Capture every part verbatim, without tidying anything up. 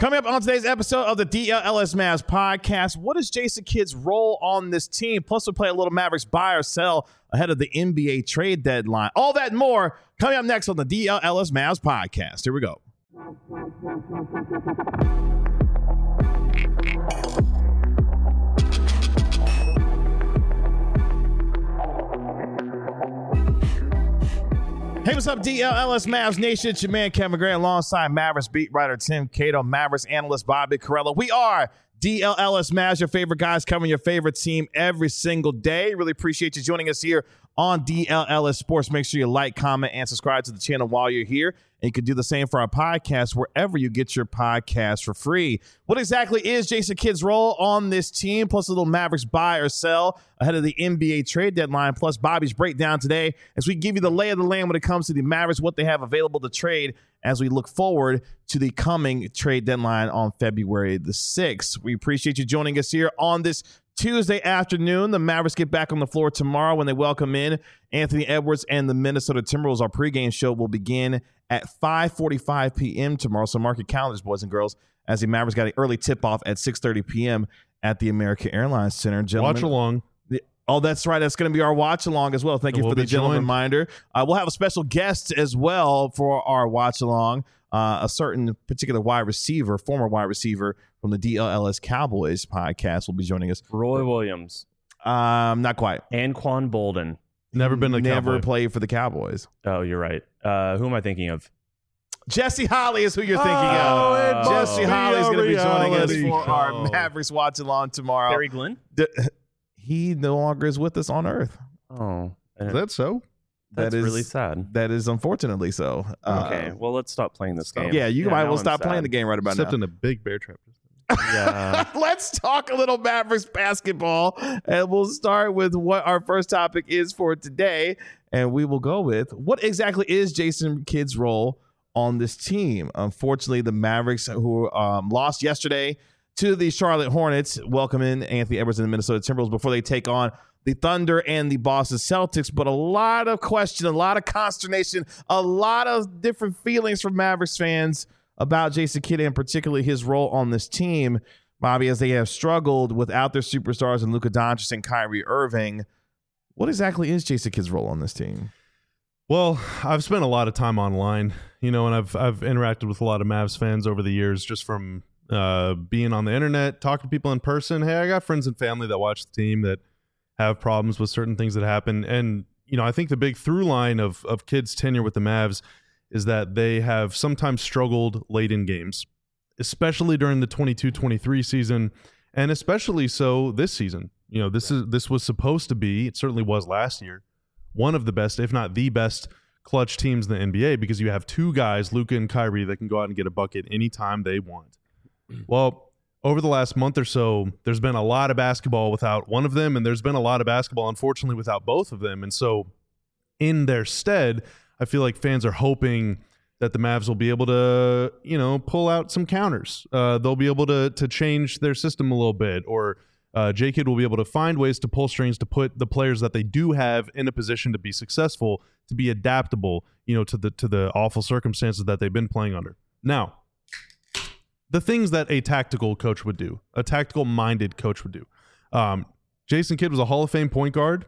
Coming up on today's episode of the D L L S Mavs podcast, what is Jason Kidd's role on this team? Plus, we'll play a little Mavericks buy or sell ahead of the N B A trade deadline. All that and more coming up next on the D L L S Mavs podcast. Here we go. Hey, what's up, D L L S Mavs Nation? It's your man, Kevin Gray, alongside Mavericks beat writer Tim Cato, Mavericks analyst Bobby Carella. We are D L L S Mavs, your favorite guys covering your favorite team every single day. Really appreciate you joining us here on D L L S Sports. Make sure you like, comment, and subscribe to the channel while you're here. And you can do the same for our podcast wherever you get your podcast for free. What exactly is Jason Kidd's role on this team? Plus a little Mavericks buy or sell ahead of the N B A trade deadline. Plus Bobby's breakdown today as we give you the lay of the land when it comes to the Mavericks, what they have available to trade as we look forward to the coming trade deadline on February the sixth. We appreciate you joining us here on this Tuesday afternoon. The Mavericks get back on the floor tomorrow when they welcome in Anthony Edwards and the Minnesota Timberwolves. Our pregame show will begin at five forty-five p.m. tomorrow. So mark your calendars, boys and girls, as the Mavericks got an early tip-off at six thirty p.m. at the American Airlines Center. Gentlemen, watch along. The, oh, that's right. That's going to be our watch along as well. Thank you we'll for the gentle joined. reminder. Uh, we'll have a special guest as well for our watch along. Uh, a certain particular wide receiver, former wide receiver from the D L L S Cowboys podcast will be joining us. Roy Williams. Um, not quite. Anquan Bolden. Never been a Never Cowboy. played for the Cowboys. Oh, you're right. Uh, who am I thinking of? Jesse Holley is who you're thinking Oh, of. it must Jesse be Holly is a going to be joining us reality for our show. Mavericks watch along tomorrow. Terry Glenn? D- he no longer is with us on Earth. Oh, Is that so? that's that is- really sad. That is unfortunately so. Uh, Okay, well, let's stop playing this game. Yeah, you might now well I'm stop sad. playing the game right about Except now. in a big bear trap. Yeah. Let's talk a little Mavericks basketball, and we'll start with what our first topic is for today, and we will go with what exactly is Jason Kidd's role on this team. Unfortunately, the Mavericks, who um, lost yesterday to the Charlotte Hornets, welcome in Anthony Edwards and the Minnesota Timberwolves before they take on the Thunder and the Boston Celtics. But a lot of question, a lot of consternation, a lot of different feelings from Mavericks fans about Jason Kidd and particularly his role on this team, Bobby, as they have struggled without their superstars and Luka Doncic and Kyrie Irving. What exactly is Jason Kidd's role on this team? Well, I've spent a lot of time online, you know, and I've I've interacted with a lot of Mavs fans over the years, just from uh, being on the internet, talking to people in person. Hey, I got friends and family that watch the team that have problems with certain things that happen, and you know, I think the big through line of of Kidd's tenure with the Mavs is that they have sometimes struggled late in games, especially during the twenty-two twenty-three season, and especially so this season. You know, this is this was supposed to be, it certainly was last year, one of the best, if not the best, clutch teams in the N B A because you have two guys, Luka and Kyrie, that can go out and get a bucket anytime they want. Well, over the last month or so, there's been a lot of basketball without one of them, and there's been a lot of basketball, unfortunately, without both of them. And so in their stead, I feel like fans are hoping that the Mavs will be able to, you know, pull out some counters. Uh, they'll be able to to change their system a little bit, or uh, J. Kidd will be able to find ways to pull strings to put the players that they do have in a position to be successful, to be adaptable, you know, to the to the awful circumstances that they've been playing under. Now, the things that a tactical coach would do, a tactical-minded coach would do. Um, Jason Kidd was a Hall of Fame point guard.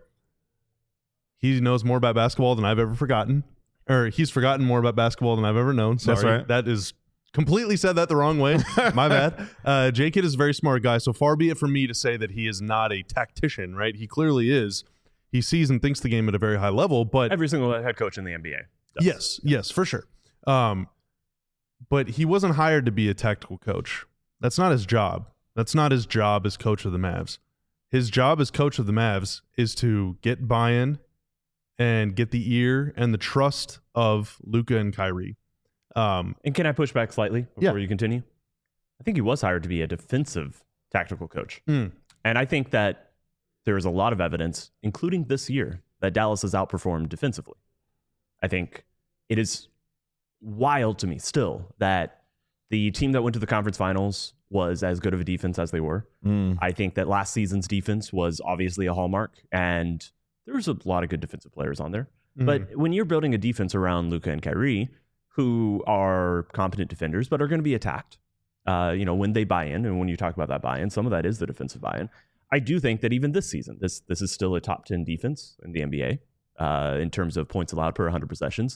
He knows more about basketball than I've ever forgotten. Or he's forgotten more about basketball than I've ever known. Sorry. That's right. That is completely said that the wrong way. My bad. Uh, J. Kidd is a very smart guy, so far be it from me to say that he is not a tactician, right? He clearly is. He sees and thinks the game at a very high level, but Every single head coach in the N B A does. yes, yes, for sure. Um, but he wasn't hired to be a tactical coach. That's not his job. That's not his job as coach of the Mavs. His job as coach of the Mavs is to get buy-in and get the ear and the trust of Luka and Kyrie. Um, And can I push back slightly before Yeah. you continue? I think he was hired to be a defensive tactical coach. mm, And I think that there is a lot of evidence, including this year, that Dallas has outperformed defensively. I think it is wild to me still that the team that went to the conference finals was as good of a defense as they were. Mm. I think that last season's defense was obviously a hallmark, and there was a lot of good defensive players on there. mm. But when you're building a defense around Luka and Kyrie, who are competent defenders but are going to be attacked, Uh, you know, when they buy in, and when you talk about that buy-in, some of that is the defensive buy-in. I do think that even this season, this this is still a top ten defense in the N B A uh, in terms of points allowed per one hundred possessions.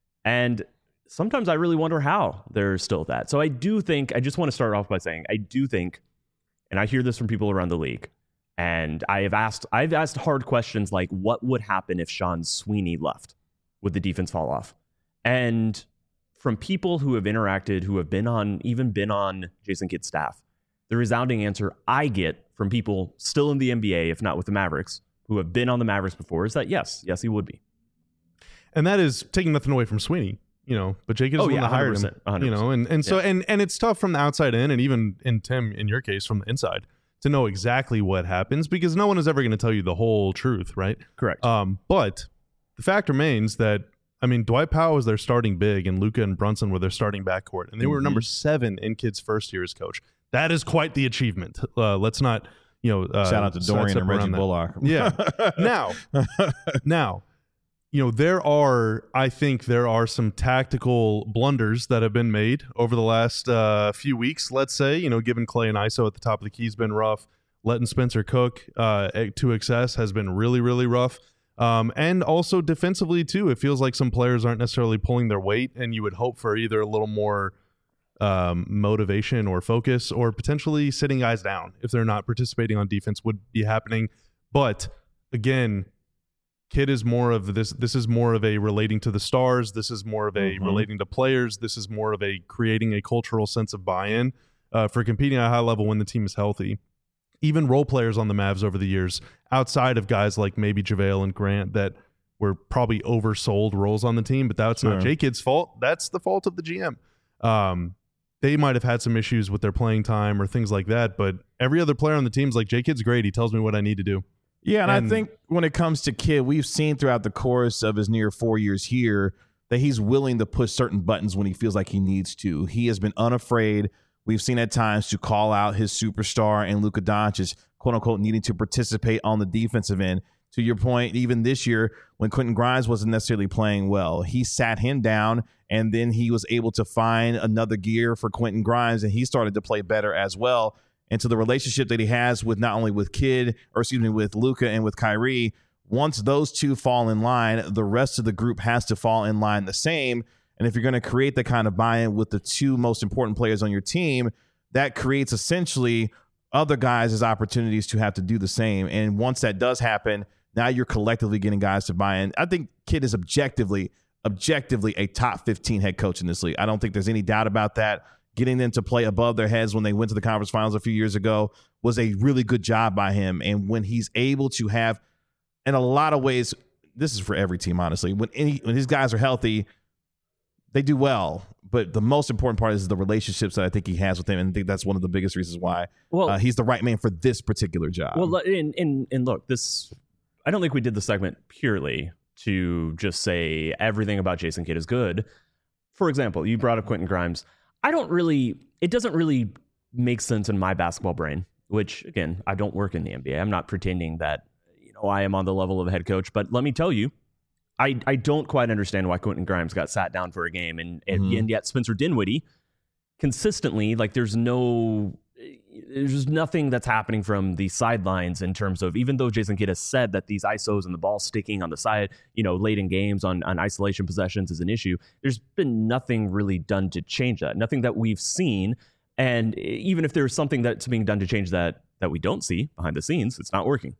And sometimes I really wonder how they're still that. So I do think, I just want to start off by saying, I do think, and I hear this from people around the league, and I have asked, I've asked hard questions like, what would happen if Sean Sweeney left? Would the defense fall off? And from people who have interacted, who have been on, even been on Jason Kidd's staff, the resounding answer I get from people still in the N B A, if not with the Mavericks, who have been on the Mavericks before, is that yes, yes, he would be. And that is taking nothing away from Sweeney, you know, but Jake is oh, the one yeah, that hired him, one hundred percent. you know, and, and so, yeah. and, and it's tough from the outside in, and even in Tim, in your case, from the inside, to know exactly what happens, because no one is ever going to tell you the whole truth, right? Correct. Um, but the fact remains that, I mean, Dwight Powell was their starting big, and Luka and Brunson were their starting backcourt, and they were mm-hmm. number seven in Kidd's first year as coach. That is quite the achievement. Uh, let's not, you know, uh, shout out to Dorian and Reggie Bullock. Yeah. now, now, you know, there are, I think there are some tactical blunders that have been made over the last uh, few weeks. Let's say, you know, given Clay and I S O at the top of the key has been rough. Letting Spencer cook uh, to excess has been really, really rough. Um, and also defensively too, it feels like some players aren't necessarily pulling their weight, and you would hope for either a little more um, motivation or focus, or potentially sitting guys down if they're not participating on defense would be happening. But again, Kidd is more of this. This is more of a relating to the stars. This is more of a mm-hmm. relating to players. This is more of a creating a cultural sense of buy-in uh, for competing at a high level when the team is healthy. Even role players on the Mavs over the years, outside of guys like maybe JaVale and Grant, that were probably oversold roles on the team, but that's sure. not J Kidd's fault. That's the fault of the G M. Um, they might have had some issues with their playing time or things like that, but every other player on the team is like, J Kidd's great. He tells me what I need to do. Yeah, and, and I think when it comes to Kidd, we've seen throughout the course of his near four years here that he's willing to push certain buttons when he feels like he needs to. He has been unafraid. We've seen at times to call out his superstar and Luka Doncic, quote unquote, needing to participate on the defensive end. To your point, even this year when Quentin Grimes wasn't necessarily playing well, he sat him down, and then he was able to find another gear for Quentin Grimes, and he started to play better as well. And to the relationship that he has with not only with Kidd, or excuse me, with Luka and with Kyrie, once those two fall in line, the rest of the group has to fall in line the same. And if you're going to create the kind of buy-in with the two most important players on your team, that creates essentially other guys as opportunities to have to do the same. And once that does happen, now you're collectively getting guys to buy in. I think Kidd is objectively, objectively a top fifteen head coach in this league. I don't think there's any doubt about that. Getting them to play above their heads when they went to the conference finals a few years ago was a really good job by him. And when he's able to have, in a lot of ways, this is for every team, honestly, when any when these guys are healthy, they do well. But the most important part is the relationships that I think he has with them. And I think that's one of the biggest reasons why well, uh, he's the right man for this particular job. Well, and, and, and look, this, I don't think we did the segment purely to just say everything about Jason Kidd is good. For example, you brought up Quentin Grimes. I don't really, it doesn't really make sense in my basketball brain, which, again, I don't work in the N B A. I'm not pretending that, you know, I am on the level of a head coach. But let me tell you, I, I don't quite understand why Quentin Grimes got sat down for a game. And, mm-hmm. and yet Spencer Dinwiddie, consistently, like there's no, there's just nothing that's happening from the sidelines in terms of, even though Jason Kidd has said that these I S Os and the ball sticking on the side, you know, late in games on, on isolation possessions is an issue, there's been nothing really done to change that. Nothing that we've seen. And even if there's something that's being done to change that, that we don't see behind the scenes, it's not working.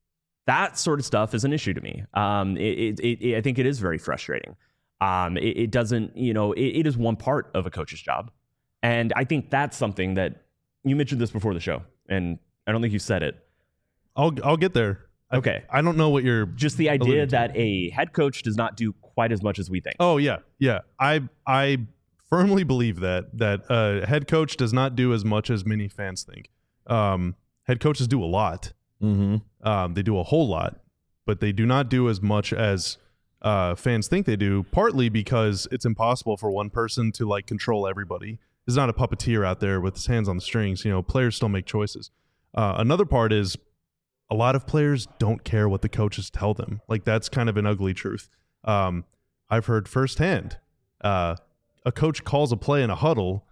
That sort of stuff is an issue to me. Um, it, it, it, I think it is very frustrating. Um, it, it doesn't, you know, it, it is one part of a coach's job. And I think that's something that, you mentioned this before the show, and I don't think you said it. I'll I'll get there. Okay. I, I don't know what you're... Just the idea that a head coach does not do quite as much as we think. Oh, yeah. Yeah. I I firmly believe that, that a head coach does not do as much as many fans think. Um, head coaches do a lot. Mm-hmm. Um, they do a whole lot, but they do not do as much as uh, fans think they do, partly because it's impossible for one person to like control everybody. There's not a puppeteer out there with his hands on the strings. You know, players still make choices. Uh, another part is a lot of players don't care what the coaches tell them. Like, that's kind of an ugly truth. Um, I've heard firsthand, uh, a coach calls a play in a huddle.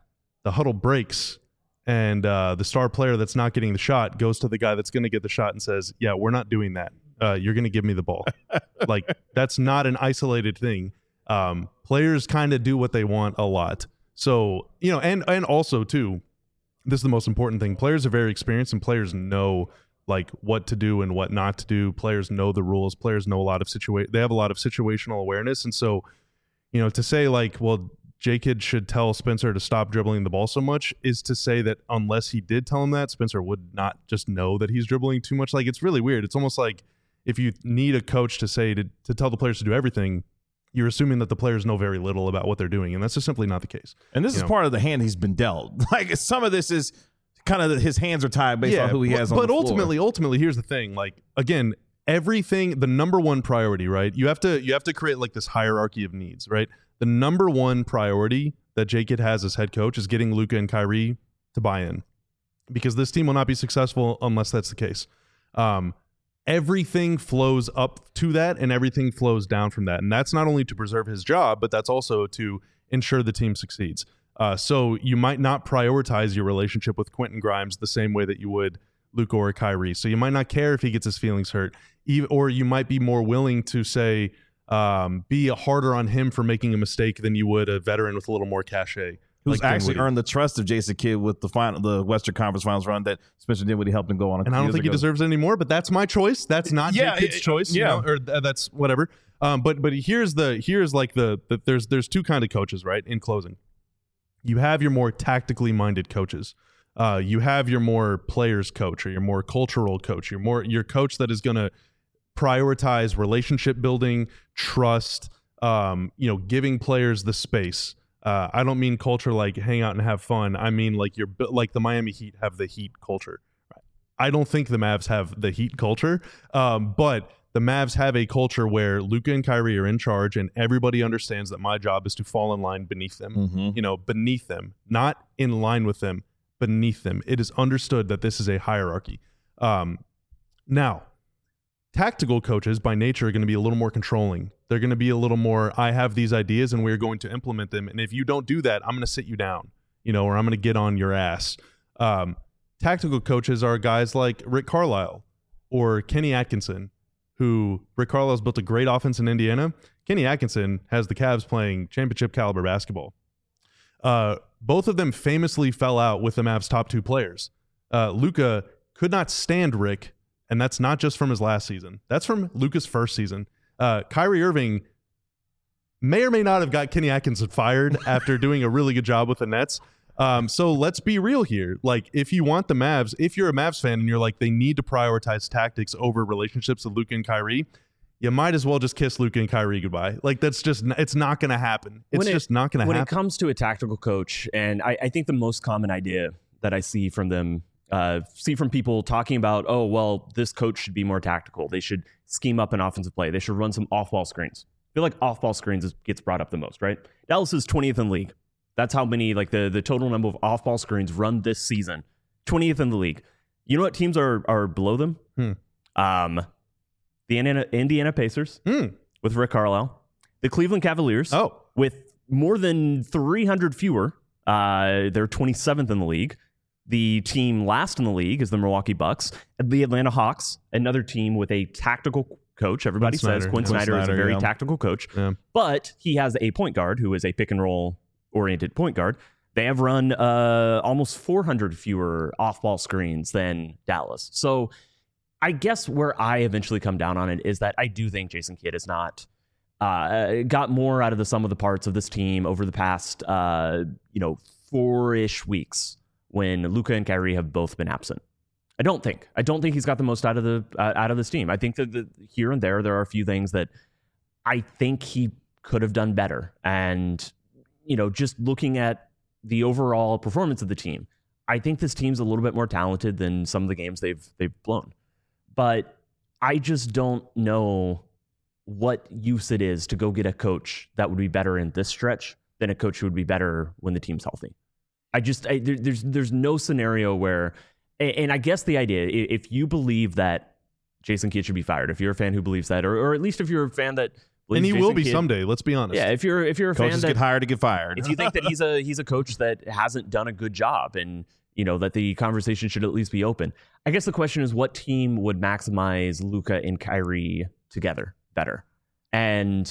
the huddle breaks and uh, the star player that's not getting the shot goes to the guy that's going to get the shot and says, yeah, we're not doing that. Uh, you're going to give me the ball. Like, that's not an isolated thing. Um, players kind of do what they want a lot. So, you know, and and also, too, this is the most important thing. Players are very experienced, and players know, like, what to do and what not to do. Players know the rules. Players know a lot of situa- they have a lot of situational awareness. And so, you know, to say, like, well, J-Kid should tell Spencer to stop dribbling the ball so much is to say that unless he did tell him that, Spencer would not just know that he's dribbling too much. Like, it's really weird. It's almost like if you need a coach to say to, to tell the players to do everything, you're assuming that the players know very little about what they're doing, and that's just simply not the case. And this you is know? part of the hand he's been dealt. Like, some of this is kind of his hands are tied based yeah, on who he has but, on but the floor. ultimately, ultimately, here's the thing. Like, again, everything, the number one priority, right? You have to you have to create like this hierarchy of needs, right? The number one priority that J-Kid has as head coach is getting Luka and Kyrie to buy in, because this team will not be successful unless that's the case. Um, everything flows up to that, and everything flows down from that, and that's not only to preserve his job, but that's also to ensure the team succeeds. Uh, so you might not prioritize your relationship with Quentin Grimes the same way that you would Luka or Kyrie. So you might not care if he gets his feelings hurt, even, or you might be more willing to say, um, be harder on him for making a mistake than you would a veteran with a little more cachet. Who's like actually earned the trust of Jason Kidd with the final, the Western Conference Finals run that Spencer Dinwiddie helped him go on. A and I don't think ago. he deserves it anymore, but that's my choice. That's not yeah, J-Kid's it, choice. Yeah, you know, or th- that's whatever. Um, but but here's the here's like the, the there's there's two kind of coaches, right? In closing, you have your more tactically minded coaches. Uh, you have your more players coach, or your more cultural coach. Your more your coach that is going to prioritize relationship building, trust. Um, you know, giving players the space. Uh, I don't mean culture like hang out and have fun. I mean like you're like the Miami Heat have the Heat culture. I don't think the Mavs have the Heat culture, um, but the Mavs have a culture where Luka and Kyrie are in charge, and everybody understands that my job is to fall in line beneath them. Mm-hmm. You know, beneath them, not in line with them, beneath them. It is understood that this is a hierarchy. Um, now, tactical coaches by nature are going to be a little more controlling. They're going to be a little more, I have these ideas and we're going to implement them. And if you don't do that, I'm going to sit you down, you know, or I'm going to get on your ass. Um, tactical coaches are guys like Rick Carlisle or Kenny Atkinson, who Rick Carlisle's built a great offense in Indiana. Kenny Atkinson has the Cavs playing championship caliber basketball. Uh, both of them famously fell out with the Mavs' top two players. Uh, Luka could not stand Rick, and that's not just from his last season. That's from Luka's first season. Uh, Kyrie Irving may or may not have got Kenny Atkinson fired after doing a really good job with the Nets. Um, so let's be real here. Like, if you want the Mavs, if you're a Mavs fan and you're like, they need to prioritize tactics over relationships with Luka and Kyrie, you might as well just kiss Luka and Kyrie goodbye. Like, that's just, it's not going to happen. It's when just it, not going to happen. When it comes to a tactical coach, and I, I think the most common idea that I see from them, uh, see from people talking about, oh, well, this coach should be more tactical. They should scheme up an offensive play. They should run some off-ball screens. I feel like off-ball screens is, gets brought up the most, right? Dallas is twentieth in the league. That's how many, like the, the total number of off-ball screens run this season. twentieth in the league. You know what teams are are below them? Hmm. Um, the Indiana, Indiana Pacers Hmm. with Rick Carlisle. The Cleveland Cavaliers Oh. with more than three hundred fewer. Uh, they're twenty-seventh in the league. The team last in the league is the Milwaukee Bucks. The Atlanta Hawks, another team with a tactical coach. Everybody Quinn says Snyder. Quinn Quinn Snyder, is a Snyder, very yeah. tactical coach. Yeah. But he has a point guard who is a pick and roll oriented point guard. They have run uh, almost four hundred fewer off-ball screens than Dallas. So I guess where I eventually come down on it is that I do think Jason Kidd has not uh, got more out of the sum of the parts of this team over the past, uh, you know, four-ish weeks when Luka and Kyrie have both been absent. I don't think. I don't think he's got the most out of the uh, out of this team. I think that the, here and there, there are a few things that I think he could have done better. And, you know, just looking at the overall performance of the team, I think this team's a little bit more talented than some of the games they've they've blown. But I just don't know what use it is to go get a coach that would be better in this stretch than a coach who would be better when the team's healthy. I just I, there, there's there's no scenario where, and I guess the idea, if you believe that Jason Kidd should be fired, if you're a fan who believes that, or or at least if you're a fan that believe And he Jason will be Kidd- someday. Let's be honest. Yeah, if you're if you're a Coaches fan that get hired to get fired. if you think that he's a he's a coach that hasn't done a good job, and you know that the conversation should at least be open. I guess the question is, what team would maximize Luka and Kyrie together better? And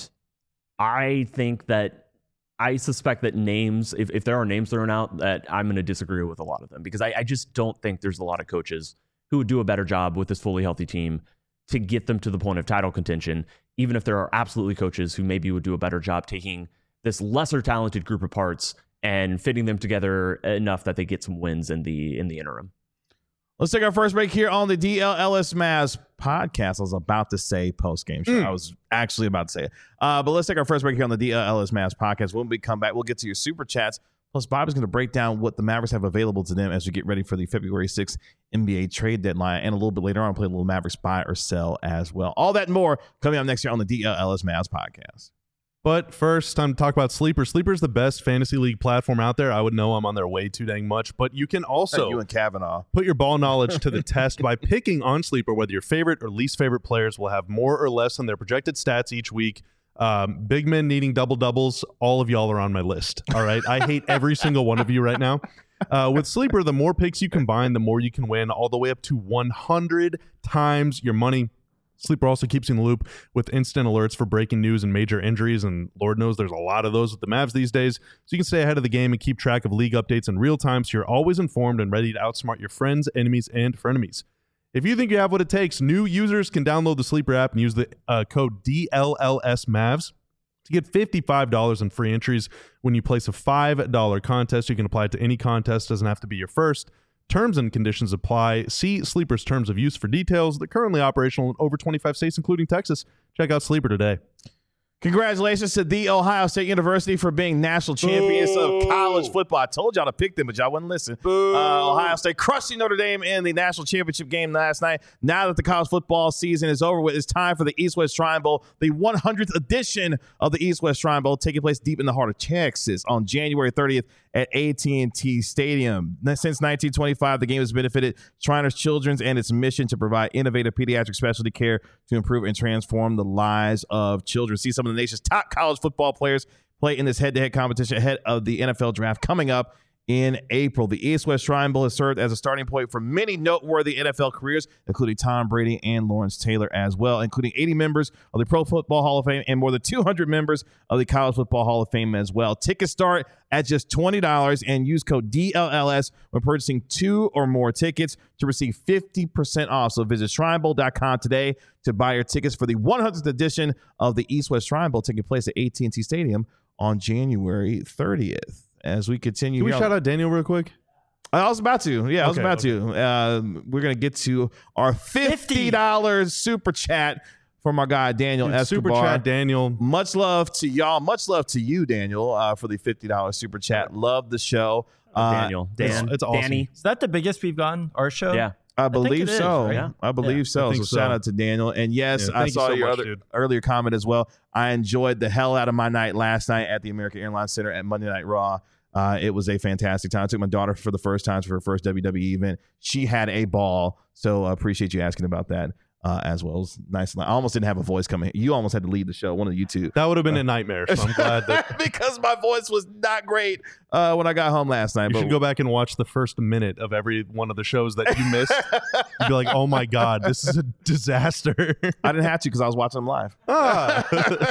I think that I suspect that names, if, if there are names thrown out, that I'm going to disagree with a lot of them, because I, I just don't think there's a lot of coaches who would do a better job with this fully healthy team to get them to the point of title contention, even if there are absolutely coaches who maybe would do a better job taking this lesser talented group of parts and fitting them together enough that they get some wins in the in the interim. Let's take our first break here on the D L L S Mavs podcast. I was about to say post-game show. Mm. I was actually about to say it. Uh, but let's take our first break here on the D L L S Mavs podcast. When we come back, we'll get to your super chats. Plus, Bob is going to break down what the Mavericks have available to them as we get ready for the February sixth N B A trade deadline. And a little bit later on, I'll play a little Mavericks buy or sell as well. All that and more coming up next year on the D L L S Mavs podcast. But first, time to talk about Sleeper. Sleeper is the best fantasy league platform out there. I would know I'm on there way too dang much, but you can also you and Kavanaugh. put your ball knowledge to the test by picking on Sleeper whether your favorite or least favorite players will have more or less on their projected stats each week. Um, big men needing double doubles, all of y'all are on my list. All right, I hate every single one of you right now. Uh, with Sleeper, the more picks you combine, the more you can win, all the way up to one hundred times your money. Sleeper also keeps you in the loop with instant alerts for breaking news and major injuries, and Lord knows there's a lot of those with the Mavs these days, so you can stay ahead of the game and keep track of league updates in real time, so you're always informed and ready to outsmart your friends, enemies, and frenemies. If you think you have what it takes, new users can download the Sleeper app and use the uh, code D L L S Mavs to get fifty-five dollars in free entries when you place a five dollar contest. You can apply it to any contest, doesn't have to be your first. Terms and conditions apply. See Sleeper's terms of use for details. They're currently operational in over twenty-five states, including Texas. Check out Sleeper today. Congratulations to The Ohio State University for being national champions Boo. of college football. I told y'all to pick them, but y'all wouldn't listen. Uh, Ohio State crushing Notre Dame in the national championship game last night. Now that the college football season is over with, it's time for the East-West Shrine Bowl, the one hundredth edition of the East-West Shrine Bowl, taking place deep in the heart of Texas on January thirtieth at A T and T Stadium. Since nineteen twenty-five, the game has benefited Shriners Children's and its mission to provide innovative pediatric specialty care to improve and transform the lives of children. See some of the nation's top college football players play in this head-to-head competition ahead of the N F L draft coming up in April. The East-West Shrine Bowl has served as a starting point for many noteworthy N F L careers, including Tom Brady and Lawrence Taylor as well, including eighty members of the Pro Football Hall of Fame and more than two hundred members of the College Football Hall of Fame as well. Tickets start at just twenty dollars and use code D L L S when purchasing two or more tickets to receive fifty percent off. So visit shrine bowl dot com today to buy your tickets for the one hundredth edition of the East-West Shrine Bowl, taking place at A T and T Stadium on January thirtieth. As we continue, Can we here shout on- out Daniel real quick? I was about to. Yeah, I was Okay, about okay. to. Um, we're going to get to our fifty dollars super chat from our guy, Daniel Dude, Escobar. Super chat, Daniel. Much love to y'all. Much love to you, Daniel, uh, for the fifty dollars super chat. Love the show. Uh, Daniel, Dan, it's- it's awesome. Danny. Is that the biggest we've gotten, our show? Yeah. I think believe it is, so. right? Yeah. I believe Yeah. so. I think so shout so. out to Daniel. And yes, Yeah, I thank you saw so your much, other, dude. earlier comment as well. I enjoyed the hell out of my night last night at the American Airlines Center at Monday Night Raw. Uh, it was a fantastic time. I took my daughter for the first time for her first W W E event. She had a ball. So I appreciate you asking about that uh, as well. It was nice. I almost didn't have a voice coming. You almost had to lead the show. One of you two. That would have been a nightmare, so I'm glad that because my voice was not great uh, when I got home last night. you but should go back and watch the first minute of every one of the shows that you missed. You'd be like, oh my God, this is a disaster. I didn't have to because I was watching them live. Ah.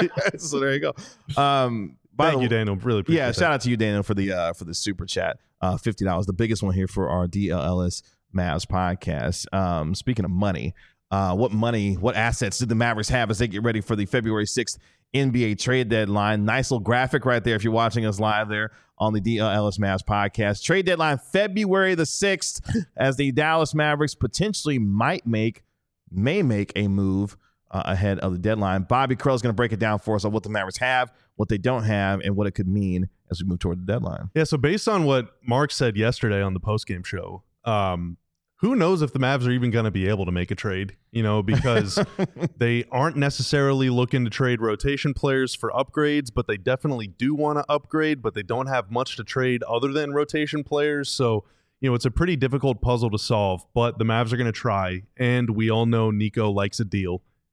So there you go. Um, by Thank the you, way- Daniel. Really appreciate Yeah, that. shout out to you, Daniel, for the uh, for the super chat. Uh, fifty dollars, the biggest one here for our D L L S Mavs podcast. Um, speaking of money, uh, what money, what assets did the Mavericks have as they get ready for the February sixth N B A trade deadline? Nice little graphic right there if you're watching us live there on the D L L S Mavs podcast. Trade deadline February the sixth, as the Dallas Mavericks potentially might make, may make a move Uh, ahead of the deadline. Bobby Krell is going to break it down for us on what the Mavericks have, what they don't have, and what it could mean as we move toward the deadline. Yeah, so based on what Mark said yesterday on the postgame show, um, who knows if the Mavs are even going to be able to make a trade, you know, because they aren't necessarily looking to trade rotation players for upgrades, but they definitely do want to upgrade, but they don't have much to trade other than rotation players. So, you know, it's a pretty difficult puzzle to solve, but the Mavs are going to try, and we all know Nico likes a deal.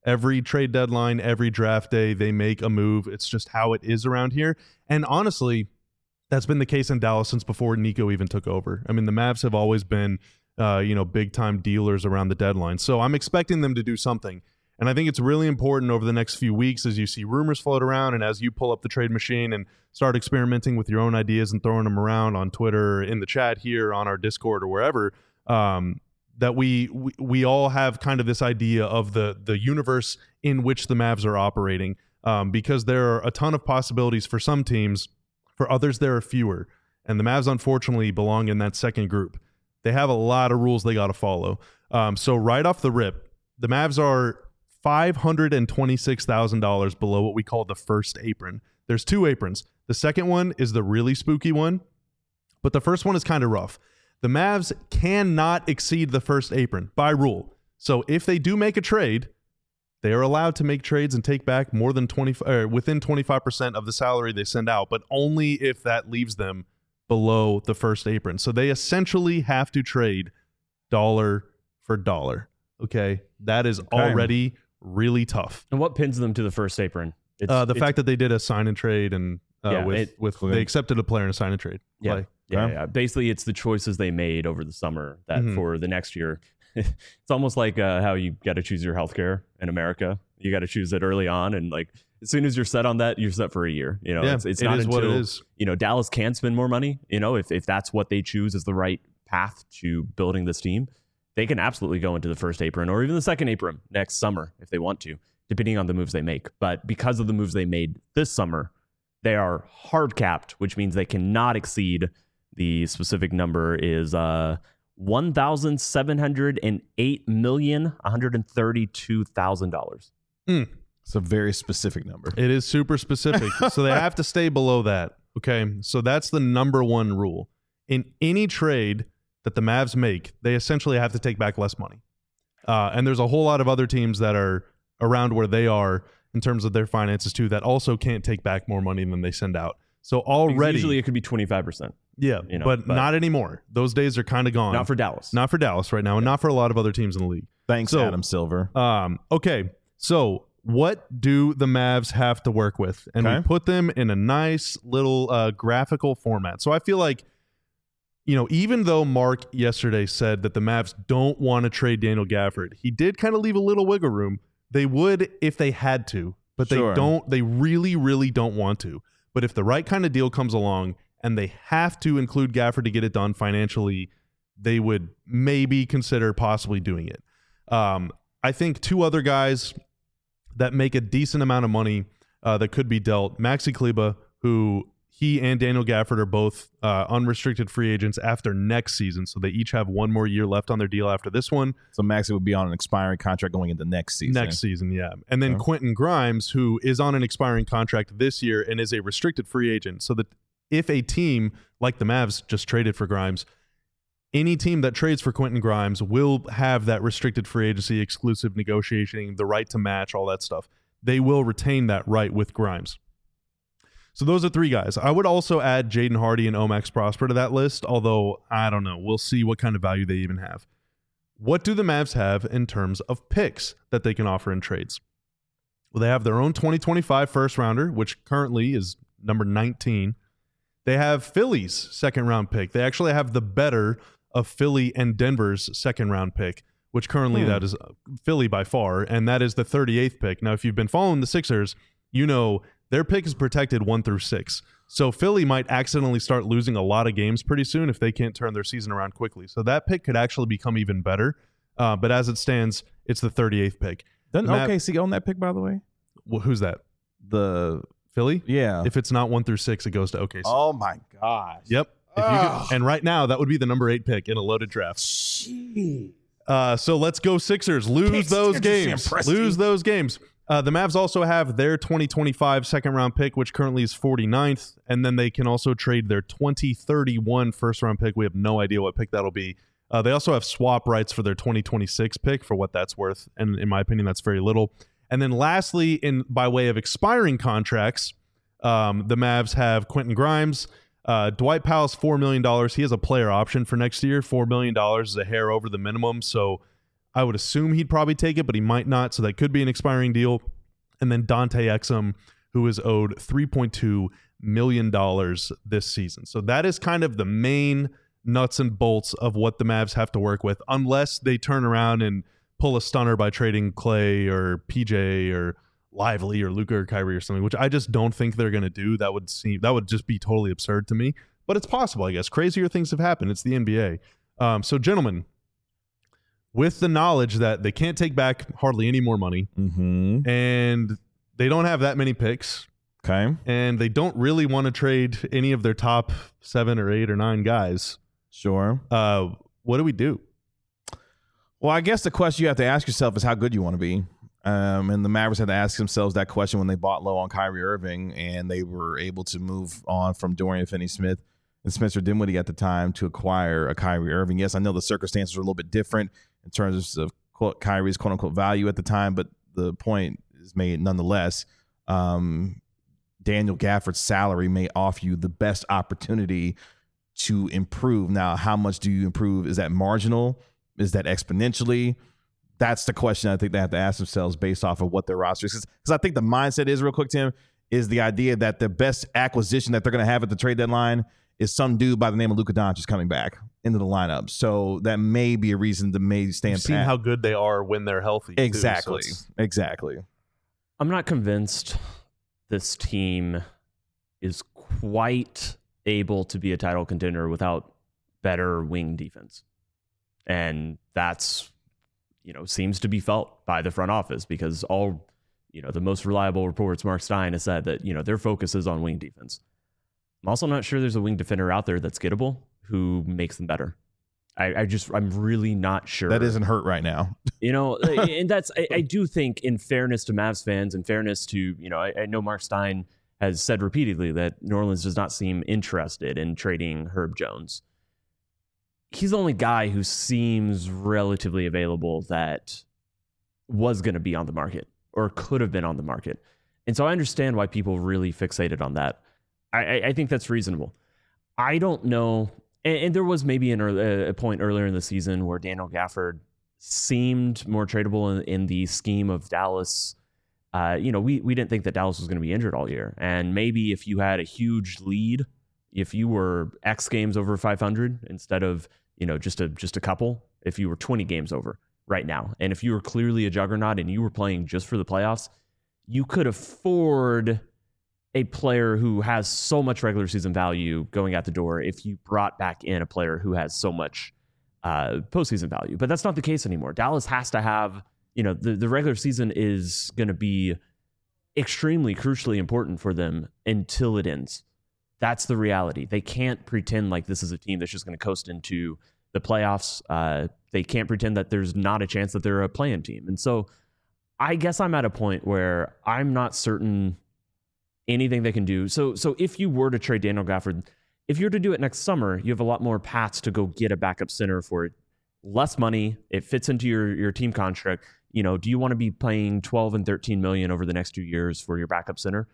Every trade deadline, every draft day, they make a move. It's just how it is around here. And honestly, that's been the case in Dallas since before Nico even took over. I mean, the Mavs have always been, uh, you know, big-time dealers around the deadline. So I'm expecting them to do something. And I think it's really important over the next few weeks as you see rumors float around and as you pull up the trade machine and start experimenting with your own ideas and throwing them around on Twitter, in the chat here, on our Discord or wherever, um, that we, we we all have kind of this idea of the the universe in which the Mavs are operating, um, because there are a ton of possibilities for some teams. For others, there are fewer. And the Mavs, unfortunately, belong in that second group. They have a lot of rules they got to follow. Um, so right off the rip, the Mavs are five hundred twenty-six thousand dollars below what we call the first apron. There's two aprons. The second one is the really spooky one, but the first one is kind of rough. The Mavs cannot exceed the first apron by rule. So if they do make a trade, they are allowed to make trades and take back more than twenty or within twenty-five percent of the salary they send out, but only if that leaves them below the first apron. So they essentially have to trade dollar for dollar. Okay, that is Okay. already really tough. And what pins them to the first apron? It's, Uh, the it's- fact that they did a sign and trade and uh, Yeah, with it- with Okay. they accepted a player in a sign and trade. Yeah, play. yeah, Okay. yeah. Basically, it's the choices they made over the summer that Mhm. for the next year. It's almost like uh, how you got to choose your healthcare in America. You got to choose it early on, and like as soon as you're set on that, you're set for a year. You know, Yeah, it's, it's it not is until what it is. you know Dallas can spend more money. You know, if if that's what they choose as the right path to building this team, they can absolutely go into the first apron or even the second apron next summer if they want to, depending on the moves they make. But because of the moves they made this summer, they are hard capped, which means they cannot exceed the specific number is uh, one thousand seven hundred eight million one hundred thirty-two thousand dollars. It's a very specific number. It is super specific. So they have to stay below that. Okay. So that's the number one rule. In any trade that the Mavs make, they essentially have to take back less money. Uh, and there's a whole lot of other teams that are around where they are in terms of their finances too that also can't take back more money than they send out. So already, Usually it could be twenty-five percent. yeah, you know, but, but- not anymore. Those days are kind of gone. Not for Dallas. not for Dallas right now, and not for a lot of other teams in the league. Thanks, So- Adam Silver. Um, okay, so what do the Mavs have to work with? And we Okay. put them in a nice little uh, graphical format. So I feel like, you know, even though Mark yesterday said that the Mavs don't want to trade Daniel Gafford, he did kind of leave a little wiggle room. They would if they had to, but Sure. they don't. They really, really don't want to. But if the right kind of deal comes along and they have to include Gafford to get it done financially, they would maybe consider possibly doing it. Um, I think two other guys that make a decent amount of money uh, that could be dealt. Maxi Kleba, who he and Daniel Gafford are both uh, unrestricted free agents after next season, so they each have one more year left on their deal after this one. So Maxey would be on an expiring contract going into next season. Next season, yeah. And then Okay. Quentin Grimes, who is on an expiring contract this year and is a restricted free agent. So that if a team like the Mavs just traded for Grimes, any team that trades for Quentin Grimes will have that restricted free agency, exclusive negotiating, the right to match, all that stuff. They will retain that right with Grimes. So those are three guys. I would also add Jaden Hardy and Omax Prosper to that list, although I don't know. We'll see what kind of value they even have. What do the Mavs have in terms of picks that they can offer in trades? Well, they have their own twenty twenty-five first rounder, which currently is number nineteen. They have Philly's second round pick. They actually have the better of Philly and Denver's second round pick, which currently Hmm. that is Philly by far, and that is the thirty-eighth pick. Now, if you've been following the Sixers, you know their pick is protected one through six. So Philly might accidentally start losing a lot of games pretty soon if they can't turn their season around quickly. So that pick could actually become even better. Uh, but as it stands, it's the thirty-eighth pick. Doesn't Matt- O K C own that pick, by the way? Well, who's that? The Philly? yeah. If it's not one through six, it goes to O K C. oh my gosh. Yep. If you Ugh. could, and right now, that would be the number eight pick in a loaded draft. Jeez. Uh, so let's go Sixers. Lose Pistons, those you're just games. impressed, Lose you. those games. Uh, the Mavs also have their twenty twenty-five second round pick, which currently is forty-ninth. And then they can also trade their twenty thirty-one first round pick. We have no idea what pick that'll be. Uh, they also have swap rights for their twenty twenty-six pick for what that's worth. And in my opinion, that's very little. And then lastly, in by way of expiring contracts, um, the Mavs have Quentin Grimes. Uh, Dwight Powell's four million dollars. He has a player option for next year. four million dollars is a hair over the minimum. So I would assume he'd probably take it, but he might not. So that could be an expiring deal. And then Dante Exum, who is owed three point two million dollars this season. So that is kind of the main nuts and bolts of what the Mavs have to work with, unless they turn around and pull a stunner by trading Clay or P J or Lively or Luka or Kyrie or something, which I just don't think they're going to do. That would seem that would just be totally absurd to me. But it's possible, I guess. Crazier things have happened. It's the N B A. Um, so, gentlemen, with the knowledge that they can't take back hardly any more money, Mm-hmm. and they don't have that many picks, Okay. and they don't really want to trade any of their top seven or eight or nine guys, Sure. uh, what do we do? Well, I guess the question you have to ask yourself is how good you want to be. Um, and the Mavericks had to ask themselves that question when they bought low on Kyrie Irving, and they were able to move on from Dorian Finney-Smith and Spencer Dinwiddie at the time to acquire a Kyrie Irving. Yes, I know the circumstances were a little bit different in terms of quote, Kyrie's quote-unquote value at the time, but the point is made nonetheless. Um, Daniel Gafford's salary may offer you the best opportunity to improve. Now, how much do you improve? Is that marginal? Is that exponentially? That's the question I think they have to ask themselves based off of what their roster is. Because I think the mindset is, real quick, Tim, is the idea that the best acquisition that they're going to have at the trade deadline is some dude by the name of Luka Doncic coming back into the lineup. So that may be a reason to maybe stand You've seen pat. how good they are when they're healthy. too, so Exactly. it's- Exactly. I'm not convinced this team is quite able to be a title contender without better wing defense. And that's, you know, seems to be felt by the front office because all, you know, the most reliable reports, Mark Stein has said that, you know, their focus is on wing defense. I'm also not sure there's a wing defender out there that's gettable who makes them better. I, I just, I'm really not sure. That isn't hurt right now. You know, and that's, I, I do think in fairness to Mavs fans and fairness to, you know, I, I know Mark Stein has said repeatedly that New Orleans does not seem interested in trading Herb Jones. He's the only guy who seems relatively available that was going to be on the market or could have been on the market. And so I understand why people really fixated on that. I, I think that's reasonable. I don't know. And, and there was maybe an early, a point earlier in the season where Daniel Gafford seemed more tradable in, in the scheme of Dallas. Uh, you know, we, we didn't think that Dallas was going to be injured all year. And maybe if you had a huge lead, if you were X games over five hundred instead of, you know, just a just a couple, if you were twenty games over right now, and if you were clearly a juggernaut and you were playing just for the playoffs, you could afford a player who has so much regular season value going out the door if you brought back in a player who has so much uh, postseason value. But that's not the case anymore. Dallas has to have, you know, the, the regular season is going to be extremely crucially important for them until it ends. That's the reality. They can't pretend like this is a team that's just going to coast into the playoffs. Uh, they can't pretend that there's not a chance that they're a play-in team. And so I guess I'm at a point where I'm not certain anything they can do. So so if you were to trade Daniel Gafford, if you were to do it next summer, you have a lot more paths to go get a backup center for less money. It fits into your, your team contract. You know, do you want to be paying twelve and thirteen million over the next two years for your backup center?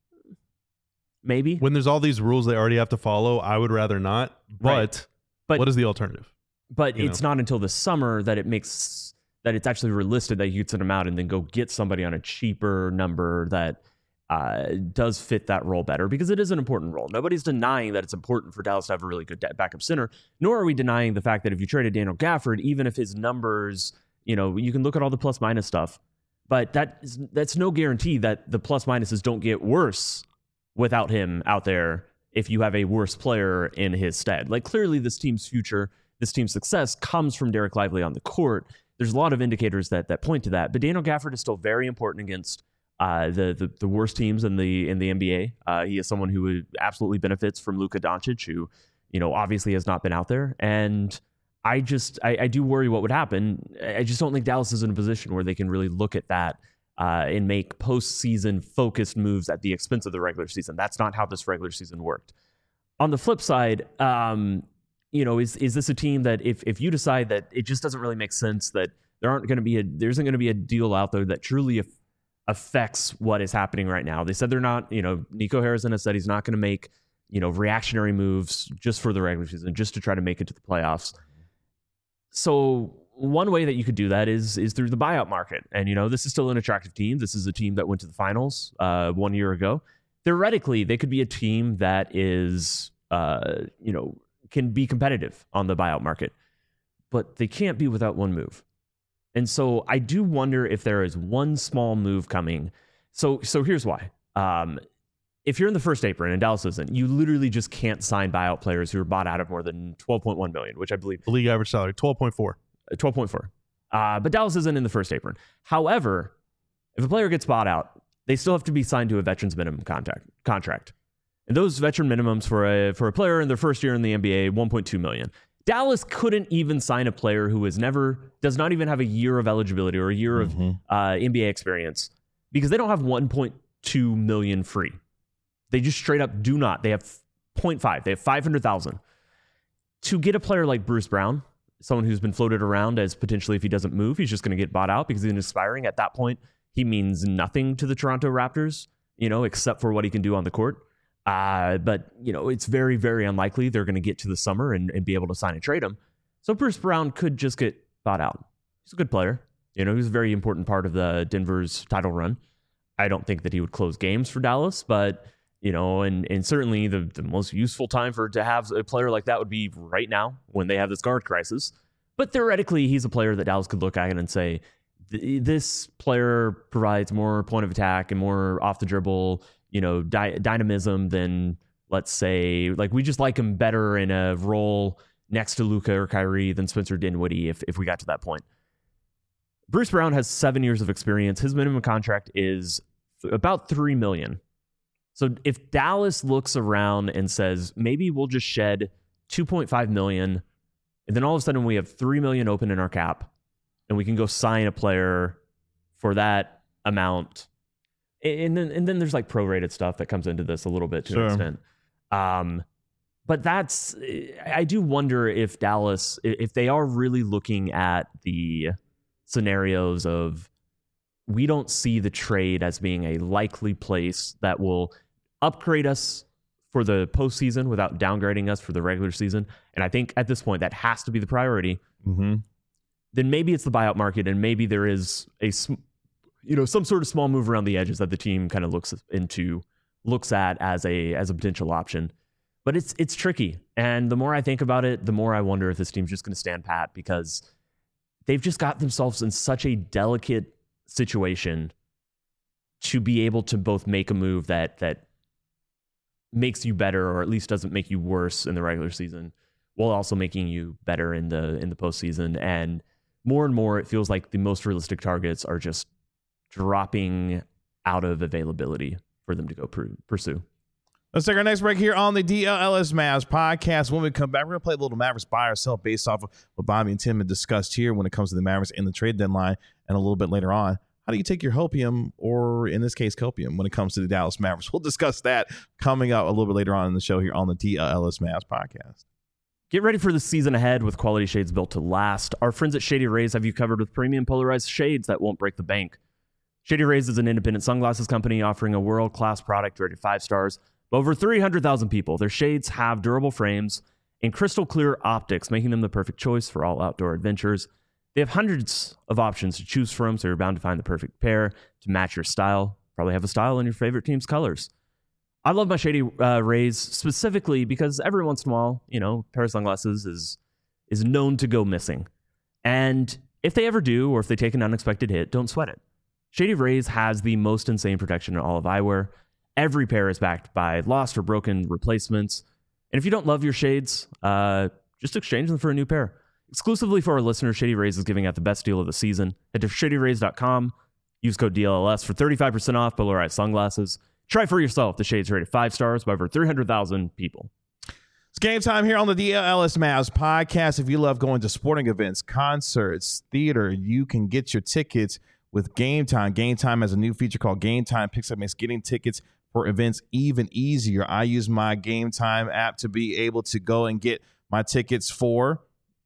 Maybe. When there's all these rules they already have to follow, I would rather not. But, Right. But- what is the alternative? But You it's not until the summer that it makes that it's actually realistic that you could send them out and then go get somebody on a cheaper number that uh, does fit that role better, because it is an important role. Nobody's denying that it's important for Dallas to have a really good backup center, nor are we denying the fact that if you traded Daniel Gafford, even if his numbers, you know, you can look at all the plus minus stuff, but that is, that's no guarantee that the plus minuses don't get worse without him out there if you have a worse player in his stead. Like, clearly this team's future, this team's success comes from Derek Lively on the court. There's a lot of indicators that that point to that, but Daniel Gafford is still very important against uh, the, the the worst teams in the in the N B A. Uh, he is someone who absolutely benefits from Luka Doncic, who, you know, obviously has not been out there. And I just I, I do worry what would happen. I just don't think Dallas is in a position where they can really look at that uh, and make postseason focused moves at the expense of the regular season. That's not how this regular season worked. On the flip side, um, you know, is is this a team that if if you decide that it just doesn't really make sense, that there aren't going to be a there isn't going to be a deal out there that truly af- affects what is happening right now? They said they're not, you know, Nico Harrison has said he's not going to make, you know, reactionary moves just for the regular season, just to try to make it to the playoffs. So one way that you could do that is is through the buyout market. And, you know, this is still an attractive team. This is a team that went to the finals uh, one year ago. Theoretically, they could be a team that is, uh, you know, can be competitive on the buyout market. But they can't be without one move. And so I do wonder if there is one small move coming. So so here's why. Um, if you're in the first apron and Dallas isn't, you literally just can't sign buyout players who are bought out of more than twelve point one million, which I believe The league average salary, twelve point four. twelve point four. Uh, but Dallas isn't in the first apron. However, if a player gets bought out, they still have to be signed to a veterans minimum contract. Contract, and those veteran minimums for a for a player in their first year in the N B A, one point two million. Dallas couldn't even sign a player who has never does not even have a year of eligibility or a year mm-hmm. of uh, N B A experience because they don't have one point two million free. They just straight up do not. They have zero point five. They have five hundred thousand. To get a player like Bruce Brown, someone who's been floated around as potentially if he doesn't move, he's just going to get bought out because he's expiring. At that point, he means nothing to the Toronto Raptors, you know, except for what he can do on the court. Uh, but, you know, it's very, very unlikely they're going to get to the summer and, and be able to sign and trade him. So Bruce Brown could just get bought out. He's a good player. You know, he's a very important part of the Denver's title run. I don't think that he would close games for Dallas, but... You know, and, and certainly the, the most useful time for to have a player like that would be right now when they have this guard crisis. But theoretically, he's a player that Dallas could look at and say, this player provides more point of attack and more off the dribble, you know, dy- dynamism than, let's say, like we just like him better in a role next to Luka or Kyrie than Spencer Dinwiddie if, if we got to that point. Bruce Brown has seven years of experience. His minimum contract is about three million dollars. So if Dallas looks around and says, maybe we'll just shed two point five million dollars, and then all of a sudden we have three million dollars open in our cap, and we can go sign a player for that amount. And then and then there's like prorated stuff that comes into this a little bit to Sure. an extent. Um, but that's, I do wonder if Dallas, if they are really looking at the scenarios of, we don't see the trade as being a likely place that will upgrade us for the postseason without downgrading us for the regular season. And I think at this point that has to be the priority. Mm-hmm. Then maybe it's the buyout market, and maybe there is a, you know, some sort of small move around the edges that the team kind of looks into, looks at as a as a potential option. But it's it's tricky, and the more I think about it, the more I wonder if this team's just going to stand pat because they've just got themselves in such a delicate situation to be able to both make a move that that makes you better or at least doesn't make you worse in the regular season while also making you better in the in the postseason. And more and more it feels like the most realistic targets are just dropping out of availability for them to go pr- pursue. Let's take our next break here on the D L L S Mavs podcast. When we come back, we're going to play a little Mavericks buy or sell based off of what Bobby and Tim had discussed here when it comes to the Mavericks and the trade deadline. And a little bit later on, how do you take your hopium, or in this case, copium, when it comes to the Dallas Mavericks? We'll discuss that coming up a little bit later on in the show here on the D L L S Mavs podcast. Get ready for the season ahead with quality shades built to last. Our friends at Shady Rays have you covered with premium polarized shades that won't break the bank. Shady Rays is an independent sunglasses company offering a world-class product rated five stars by over three hundred thousand people. Their shades have durable frames and crystal clear optics, making them the perfect choice for all outdoor adventures. They have hundreds of options to choose from, so you're bound to find the perfect pair to match your style. Probably have a style in your favorite team's colors. I love my Shady uh, Rays specifically because every once in a while, you know, a pair of sunglasses is is known to go missing. And if they ever do, or if they take an unexpected hit, don't sweat it. Shady Rays has the most insane protection in all of eyewear. Every pair is backed by lost or broken replacements. And if you don't love your shades, uh, just exchange them for a new pair. Exclusively for our listeners, Shady Rays is giving out the best deal of the season. Head to shady rays dot com. Use code D L L S for thirty-five percent off polarized sunglasses. Try for yourself. The shades rated five stars by over three hundred thousand people. It's game time here on the D L L S Mavs podcast. If you love going to sporting events, concerts, theater, you can get your tickets with Game Time. Game Time has a new feature called Game Time Picks Up, makes getting tickets for events even easier. I use my Game Time app to be able to go and get my tickets for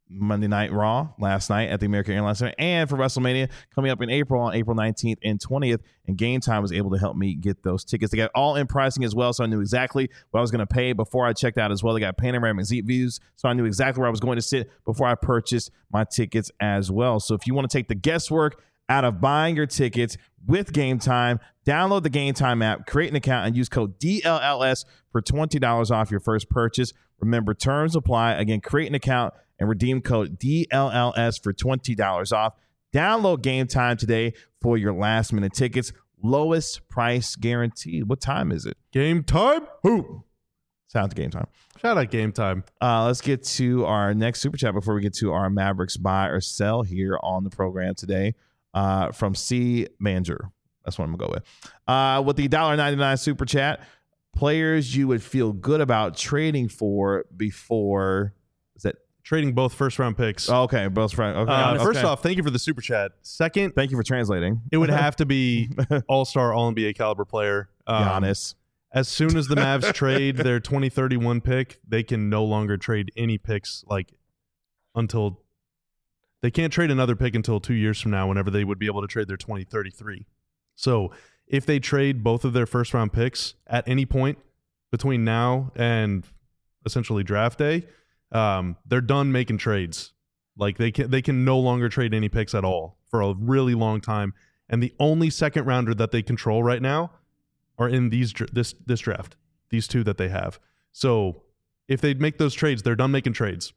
Monday Night Raw last night at the American Airlines Center, and for WrestleMania coming up in April on April nineteenth and twentieth. And Game Time was able to help me get those tickets. They got all in pricing as well, so I knew exactly what I was going to pay before I checked out as well. They got panoramic seat views, so I knew exactly where I was going to sit before I purchased my tickets as well. So if you want to take the guesswork out of buying your tickets with Game Time, download the Game Time app, create an account, and use code D L L S for twenty dollars off your first purchase. Remember, terms apply. Again, create an account and redeem code D L L S for twenty dollars off. Download Game Time today for your last minute tickets. Lowest price guaranteed. What time is it? Game time? Who? Sounds Game Time. Shout out Game Time. Uh, let's get to our next super chat before we get to our Mavericks buy or sell here on the program today. Uh, from C Manger. That's what I'm gonna go with. Uh, with the one dollar ninety-nine super chat, players you would feel good about trading for before. Is that Trading both first round picks. oh, okay? Both right. Okay. Uh, okay. First off, thank you for the super chat. Second, thank you for translating. it would have to be all star, all N B A caliber player. Um, Giannis. As soon as the Mavs trade their twenty thirty-one pick, they can no longer trade any picks like until they can't trade another pick until two years from now, whenever they would be able to trade their twenty thirty-three. So if they trade both of their first round picks at any point between now and essentially draft day, um, they're done making trades. Like they can they can no longer trade any picks at all for a really long time. And the only second rounder that they control right now are in these this this draft, these two that they have. So if they make those trades, they're done making trades.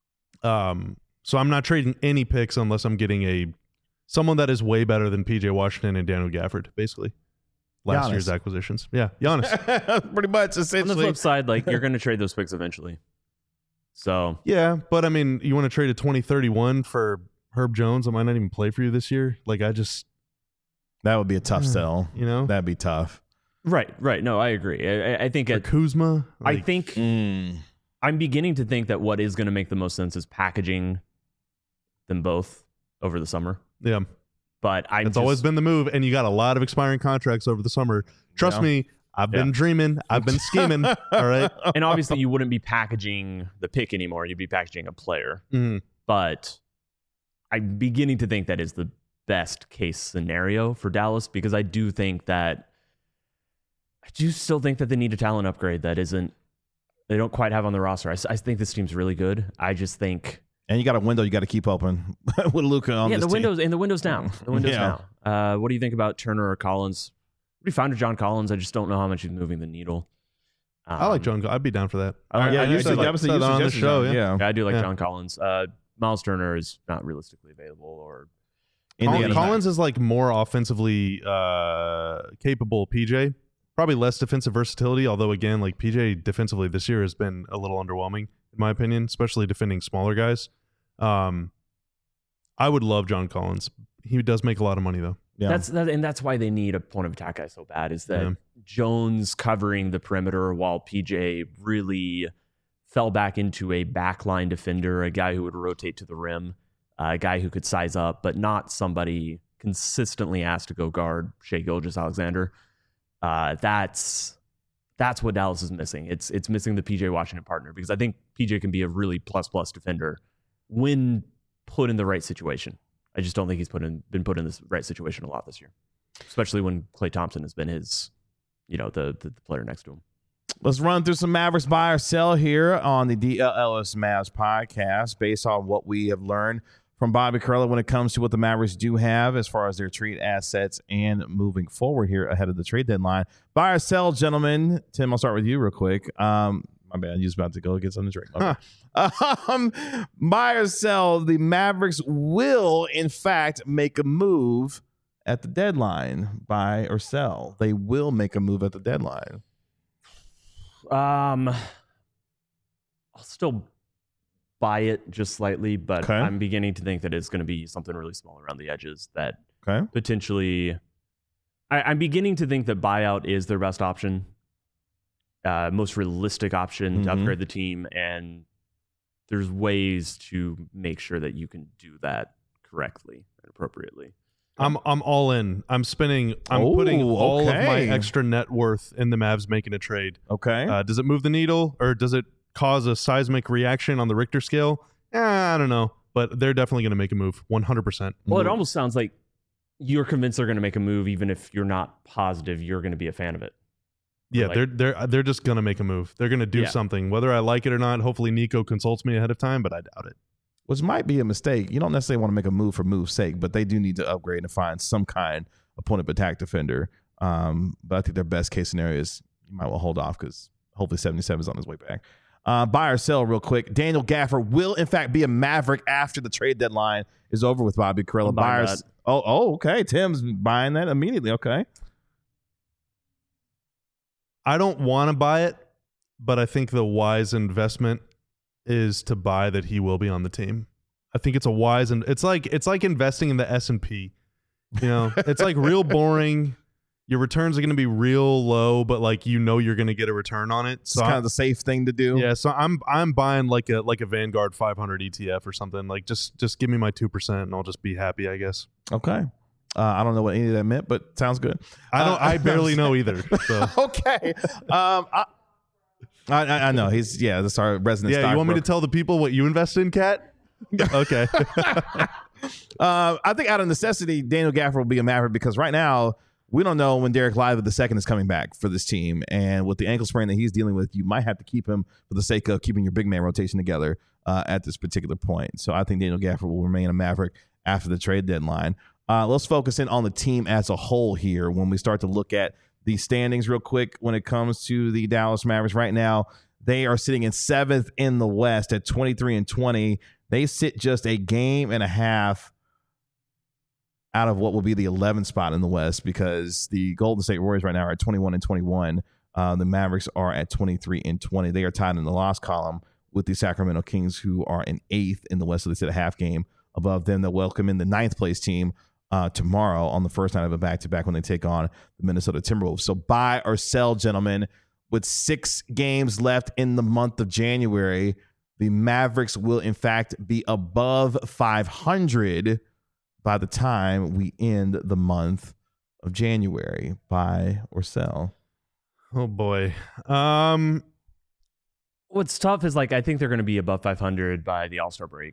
Um, so I'm not trading any picks unless I'm getting a someone that is way better than P J Washington and Daniel Gafford, basically. Last Giannis. year's acquisitions. Yeah, Giannis. Pretty much, On essentially. the flip side, like you're going to trade those picks eventually. So Yeah, but I mean, you want to trade a twenty thirty-one for Herb Jones that might not even play for you this year? Like, I just, That would be a tough sell. you know, That'd be tough. right, right. No, I agree. I, I think or it, Kuzma. I like- think Mm. I'm beginning to think that what is going to make the most sense is packaging them both over the summer. yeah, But I'm it's just, always been the move, and you got a lot of expiring contracts over the summer. Trust Yeah. me, I've been Yeah. dreaming, I've been scheming. All right, and obviously you wouldn't be packaging the pick anymore. You'd be packaging a player. Mhm. But I'm beginning to think that is the best case scenario for Dallas, because I do think that I do still think that they need a talent upgrade that isn't they don't quite have on the roster. I, s- I think this team's really good. I just think And you got a window you got to keep open with Luka on yeah, this the team. windows and the windows now. The windows Yeah. now. Uh, what do you think about Turner or Collins? What do you find of John Collins? I just don't know how much he's moving the needle. Um, I like John. Go- I'd be down for that. I like- Yeah, I you do said, like- that was the said that on the suggestion, show, John. yeah. Yeah, I do like Yeah. John Collins. Uh, Miles Turner is not realistically available, or Indiana. Col- Collins is like more offensively uh, capable. P J probably less defensive versatility. Although again, like P J defensively this year has been a little underwhelming in my opinion, especially defending smaller guys. Um, I would love John Collins. He does make a lot of money though. Yeah. That's that, and that's why they need a point of attack guy so bad. Is that Yeah. Jones covering the perimeter while P J really fell back into a backline defender, a guy who would rotate to the rim, uh, a guy who could size up, but not somebody consistently asked to go guard Shai Gilgeous-Alexander. Uh, that's that's what Dallas is missing. It's it's missing the P J Washington partner, because I think P J can be a really plus plus defender when put in the right situation. I just don't think he's put in been put in this right situation a lot this year, especially when Klay Thompson has been his, you know, the the, the player next to him. Let's run through some Mavericks buy or sell here on the D L L S Mavs podcast based on what we have learned from Bobby Carella when it comes to what the Mavericks do have as far as their trade assets and moving forward here ahead of the trade deadline. Buy or sell, gentlemen. Tim, I'll start with you real quick. Um, my bad, you was about to go get something to drink. Okay. Um, buy or sell, the Mavericks will, in fact, make a move at the deadline. Buy or sell. They will make a move at the deadline. Um, I'll still buy it just slightly, but Okay. I'm beginning to think that it's going to be something really small around the edges that Okay. potentially. I, I'm beginning to think that buyout is their best option, uh, most realistic option to Mhm. upgrade the team, and there's ways to make sure that you can do that correctly and appropriately. I'm I'm all in. I'm spending. I'm Oh, putting all of my okay. extra net worth in the Mavs making a trade. Okay. Uh, does it move the needle, or does it cause a seismic reaction on the Richter scale? eh, I don't know, but they're definitely going to make a move, one hundred percent. Well, it almost sounds like you're convinced they're going to make a move, even if you're not positive you're going to be a fan of it. Yeah, Like- they're they're they're just going to make a move. They're going to do Yeah. something, whether I like it or not. Hopefully, Nico consults me ahead of time, but I doubt it. Which might be a mistake. You don't necessarily want to make a move for move's sake, but they do need to upgrade and find some kind of point of attack defender. Um, but I think their best case scenario is you might well hold off because hopefully seventy-seven is on his way back. Uh, buy or sell real quick. Daniel Gaffer will in fact be a Maverick after the trade deadline is over with Bobby Carella. I'm buying Buyers. that. Oh, oh, okay. Tim's buying that immediately. Okay. I don't want to buy it, but I think the wise investment is to buy that he will be on the team. I think it's a wise and it's like it's like investing in the S and P. You know, it's like real boring. Your returns are going to be real low, but like you know you're going to get a return on it. It's So kind I- of the safe thing to do. yeah, so I'm I'm buying like a like a Vanguard five hundred E T F or something. Like just just give me my two percent and I'll just be happy, I guess. Okay. Uh, I don't know what any of that meant, but sounds good. I don't. Uh, I barely know either. So. Okay. Um, I, I, I know he's yeah. That's our resident. Yeah, you want me to stockbroker. tell the people what you invest in, Kat? Okay. Uh, I think out of necessity, Daniel Gaffer will be a Maverick because right now we don't know when Derek Lively the second is coming back for this team, and with the ankle sprain that he's dealing with, you might have to keep him for the sake of keeping your big man rotation together uh, at this particular point. So I think Daniel Gaffer will remain a Maverick after the trade deadline. Uh, let's focus in on the team as a whole here when we start to look at the standings real quick when it comes to the Dallas Mavericks. Right now, they are sitting in seventh in the West at twenty-three and twenty. They sit just a game and a half out of what will be the eleventh spot in the West because the Golden State Warriors right now are at twenty-one and twenty-one. Uh, the Mavericks are at twenty-three and twenty. They are tied in the loss column with the Sacramento Kings, who are in eighth in the West. So they sit a half game above them. They'll welcome in the ninth place team uh, tomorrow on the first night of a back-to-back when they take on the Minnesota Timberwolves. So buy or sell, gentlemen. With six games left in the month of January, the Mavericks will, in fact, be above five hundred by the time we end the month of January. Buy or sell? Oh boy. Um. What's tough is like I think they're going to be above five hundred by the All-Star break,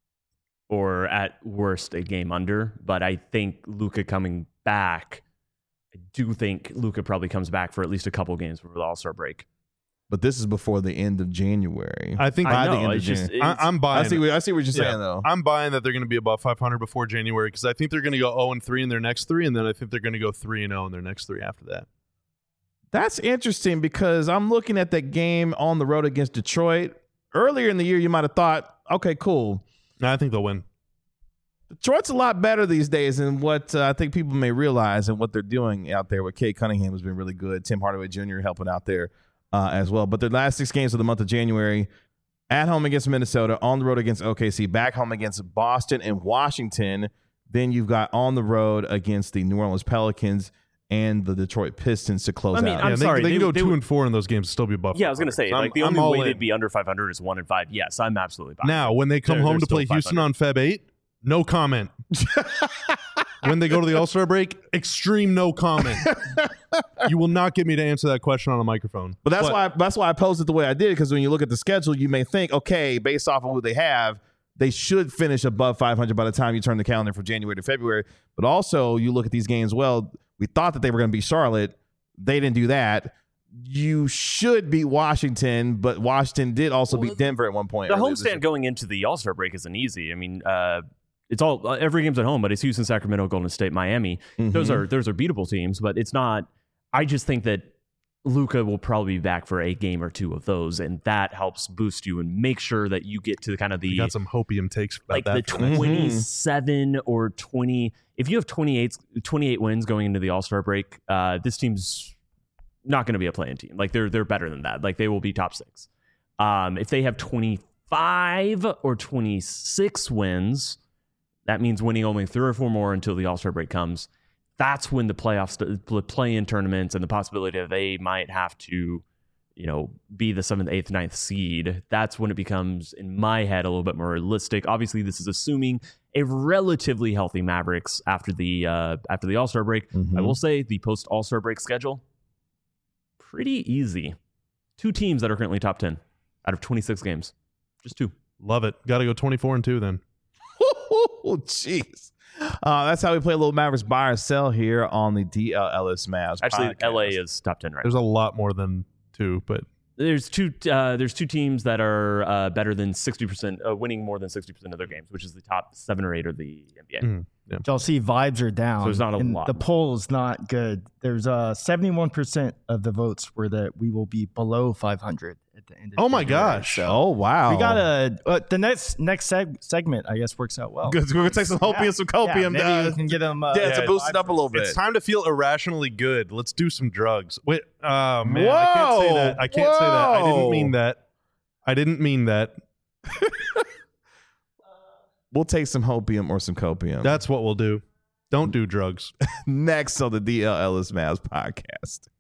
or at worst a game under. But I think Luka coming back. I do think Luka probably comes back for at least a couple games before the All-Star break. But this is before the end of January. I think I by the know. end of It's just, January. it's, I, I'm buying. I see. it. What, I see what you're Yeah. saying, though. I'm buying that they're going to be above five hundred before January because I think they're going to go zero and three in their next three, and then I think they're going to go three and zero in their next three after that. That's interesting because I'm looking at that game on the road against Detroit. Earlier in the year, you might have thought, okay, cool. No, I think they'll win. Detroit's a lot better these days than what uh, I think people may realize and what they're doing out there with Kate Cunningham has been really good. Tim Hardaway Junior helping out there uh, as well. But their last six games of the month of January, at home against Minnesota, on the road against O K C, back home against Boston and Washington. Then you've got on the road against the New Orleans Pelicans and the Detroit Pistons to close I mean, out. I'm yeah, they, sorry, they, they- can go they two would- and four in those games and still be above. yeah, I was going to say So I'm- like the I'm only all way in. they'd be under five hundred is one and five. Yes, I'm absolutely buying. Now, when they come They're- home they're to play still Houston five on Feb eighth, no comment. When they go to the All-Star break, extreme no comment. You will not get me to answer that question on a microphone. But that's why that's why I posed it the way I did, because when you look at the schedule, you may think, okay, based off of who they have, they should finish above five hundred by the time you turn the calendar from January to February. But also, you look at these games, well, we thought that they were going to beat Charlotte. They didn't do that. You should beat Washington, but Washington did also Well, beat Denver at one point. the earlier this year. homestand going into the All-Star break isn't easy. I mean, uh, it's all uh, every game's at home, but it's Houston, Sacramento, Golden State, Miami. Those Mhm. are those are beatable teams, but it's not. I just think that Luka will probably be back for a game or two of those, and that helps boost you and make sure that you get to kind of the You got some hopium takes about like that. the for next- twenty-seven or twenty. If you have twenty-eight, twenty-eight wins going into the All-Star break, uh, this team's not going to be a playing team. Like they're they're better than that. Like they will be top six. Um, if they have twenty-five or twenty-six wins, that means winning only three or four more until the All-Star break comes. That's when the playoffs, the play-in tournaments, and the possibility that they might have to, you know, be the seventh, eighth, ninth seed. That's when it becomes, in my head, a little bit more realistic. Obviously, this is assuming a relatively healthy Mavericks after the uh, after the All-Star break. Mhm. I will say the post All-Star break schedule pretty easy. Two teams that are currently top ten out of twenty-six games, just two. Love it. Got to go twenty-four and two then. Oh, jeez. Uh, that's how we play a little Mavericks buy or sell here on the D L L S Mavs. Actually, podcast. L A is top ten right There's now. a lot more than two, but There's two. Uh, there's two teams that are uh, better than sixty percent, uh, winning more than sixty percent of their games, which is the top seven or eight of the N B A. mm, yeah. Y'all see vibes are down. So there's not a and lot. The poll is not good. There's uh seventy-one percent of the votes were that we will be below five hundred at the end of Oh my February. gosh. So Oh, wow. we got a uh, the next next seg- segment I guess works out well. Good. We're going to take some hopium, Yeah. some Yeah, copium. maybe uh, we can get them uh, yeah, to yeah, boost it up a little bit. It's time to feel irrationally good. Let's do some drugs. Wait, oh man, I can't say Whoa. that. I can't say that. I Whoa. didn't mean that. I didn't mean that. We'll take some hopium or some copium. That's what we'll do. Don't do drugs. Next on the D L L S Mavs podcast.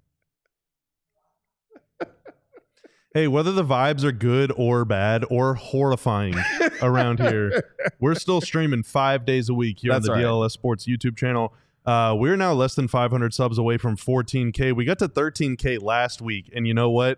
Hey, whether the vibes are good or bad or horrifying around here, we're still streaming five days a week here That's on the right. D L L S Sports YouTube channel. Uh, we're now less than five hundred subs away from fourteen K. We got to thirteen K last week, and you know what?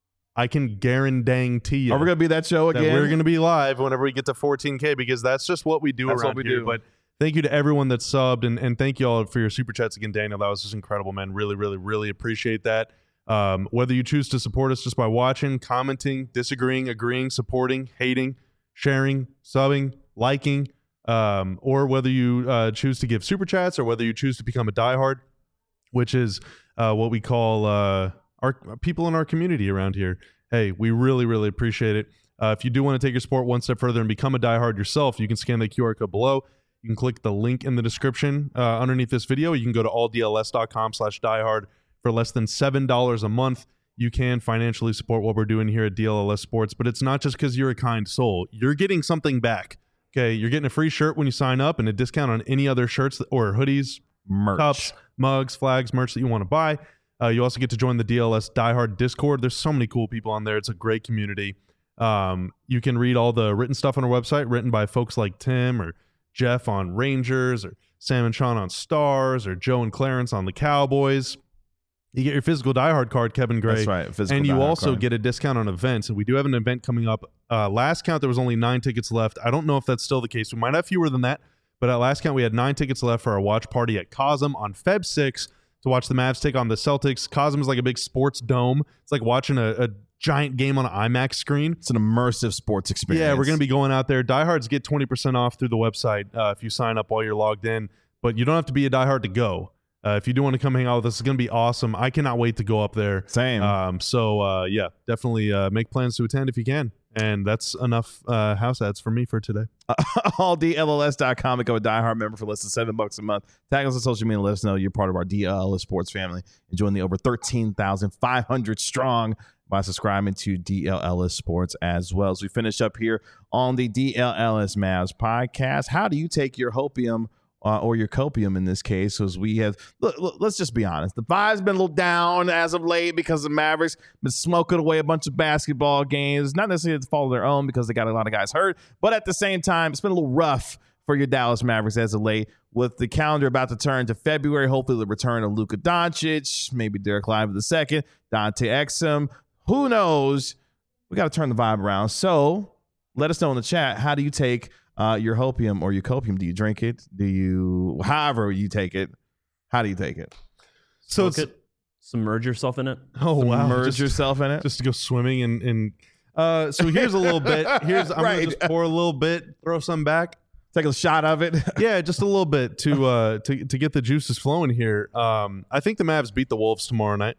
I can guarantee you Are we going to be that show that again? we're going to be live whenever we get to fourteen K because that's just what we do That's around what we here. do. But thank you to everyone that subbed, and, and thank you all for your super chats again, Daniel. That was just incredible, man. Really, really, really appreciate that. Um, whether you choose to support us just by watching, commenting, disagreeing, agreeing, supporting, hating, sharing, subbing, liking, um, or whether you uh, choose to give super chats or whether you choose to become a diehard, which is uh, what we call uh, our people in our community around here. Hey, we really, really appreciate it. Uh, if you do want to take your sport one step further and become a diehard yourself, you can scan the Q R code below. You can click the link in the description uh, underneath this video. You can go to all D L S dot com slash diehard. For less than seven dollars a month, you can financially support what we're doing here at D L L S Sports. But it's not just because you're a kind soul. You're getting something back. Okay, you're getting a free shirt when you sign up and a discount on any other shirts or hoodies, merch. cups, mugs, flags, merch that you want to buy. Uh, you also get to join the D L S Diehard Discord. There's so many cool people on there. It's a great community. Um, you can read all the written stuff on our website, written by folks like Tim or Jeff on Rangers, or Sam and Sean on Stars, or Joe and Clarence on the Cowboys. You get your physical diehard card, Kevin Gray. That's right. Physical and you diehard also card. get a discount on events. And we do have an event coming up. Uh, last count, there was only nine tickets left. I don't know if that's still the case. We might have fewer than that. But at last count, we had nine tickets left for our watch party at Cosm on February sixth to watch the Mavs take on the Celtics. Cosm is like a big sports dome. It's like watching a, a giant game on an IMAX screen. It's an immersive sports experience. Yeah, we're going to be going out there. Diehards get twenty percent off through the website uh, if you sign up while you're logged in. But you don't have to be a diehard to go. Uh, if you do want to come hang out with us, it's going to be awesome. I cannot wait to go up there. Same. Um, so, uh, yeah, definitely uh, make plans to attend if you can. And that's enough uh, house ads for me for today. all D L L S dot com. Become a diehard member for less than seven bucks a month. Tag us on social media. Let us know you're part of our D L L S Sports family and join the over thirteen thousand five hundred strong by subscribing to D L L S Sports as well. As we finish up here on the D L L S Mavs podcast, how do you take your hopium uh, or your copium in this case? Because we have, look, look, let's just be honest. The vibe's been a little down as of late because the Mavericks been smoking away a bunch of basketball games. Not necessarily to follow their own because they got a lot of guys hurt, but at the same time, it's been a little rough for your Dallas Mavericks as of late, with the calendar about to turn to February. Hopefully the return of Luka Doncic, maybe Derek Lively the second, Dante Exum. Who knows? We got to turn the vibe around. So let us know in the chat, how do you take uh, your hopium or your copium? Do you drink it? Do you, however you take it, how do you take it? So Smoke it's, it, submerge yourself in it. oh, wow. Immerse Just, yourself in it? just to go swimming and, and uh, so here's a little bit. Here's I'm Right. gonna just pour a little bit, throw some back. Take a shot of it. Yeah, just a little bit to uh to to get the juices flowing here. Um, I think the Mavs beat the Wolves tomorrow night.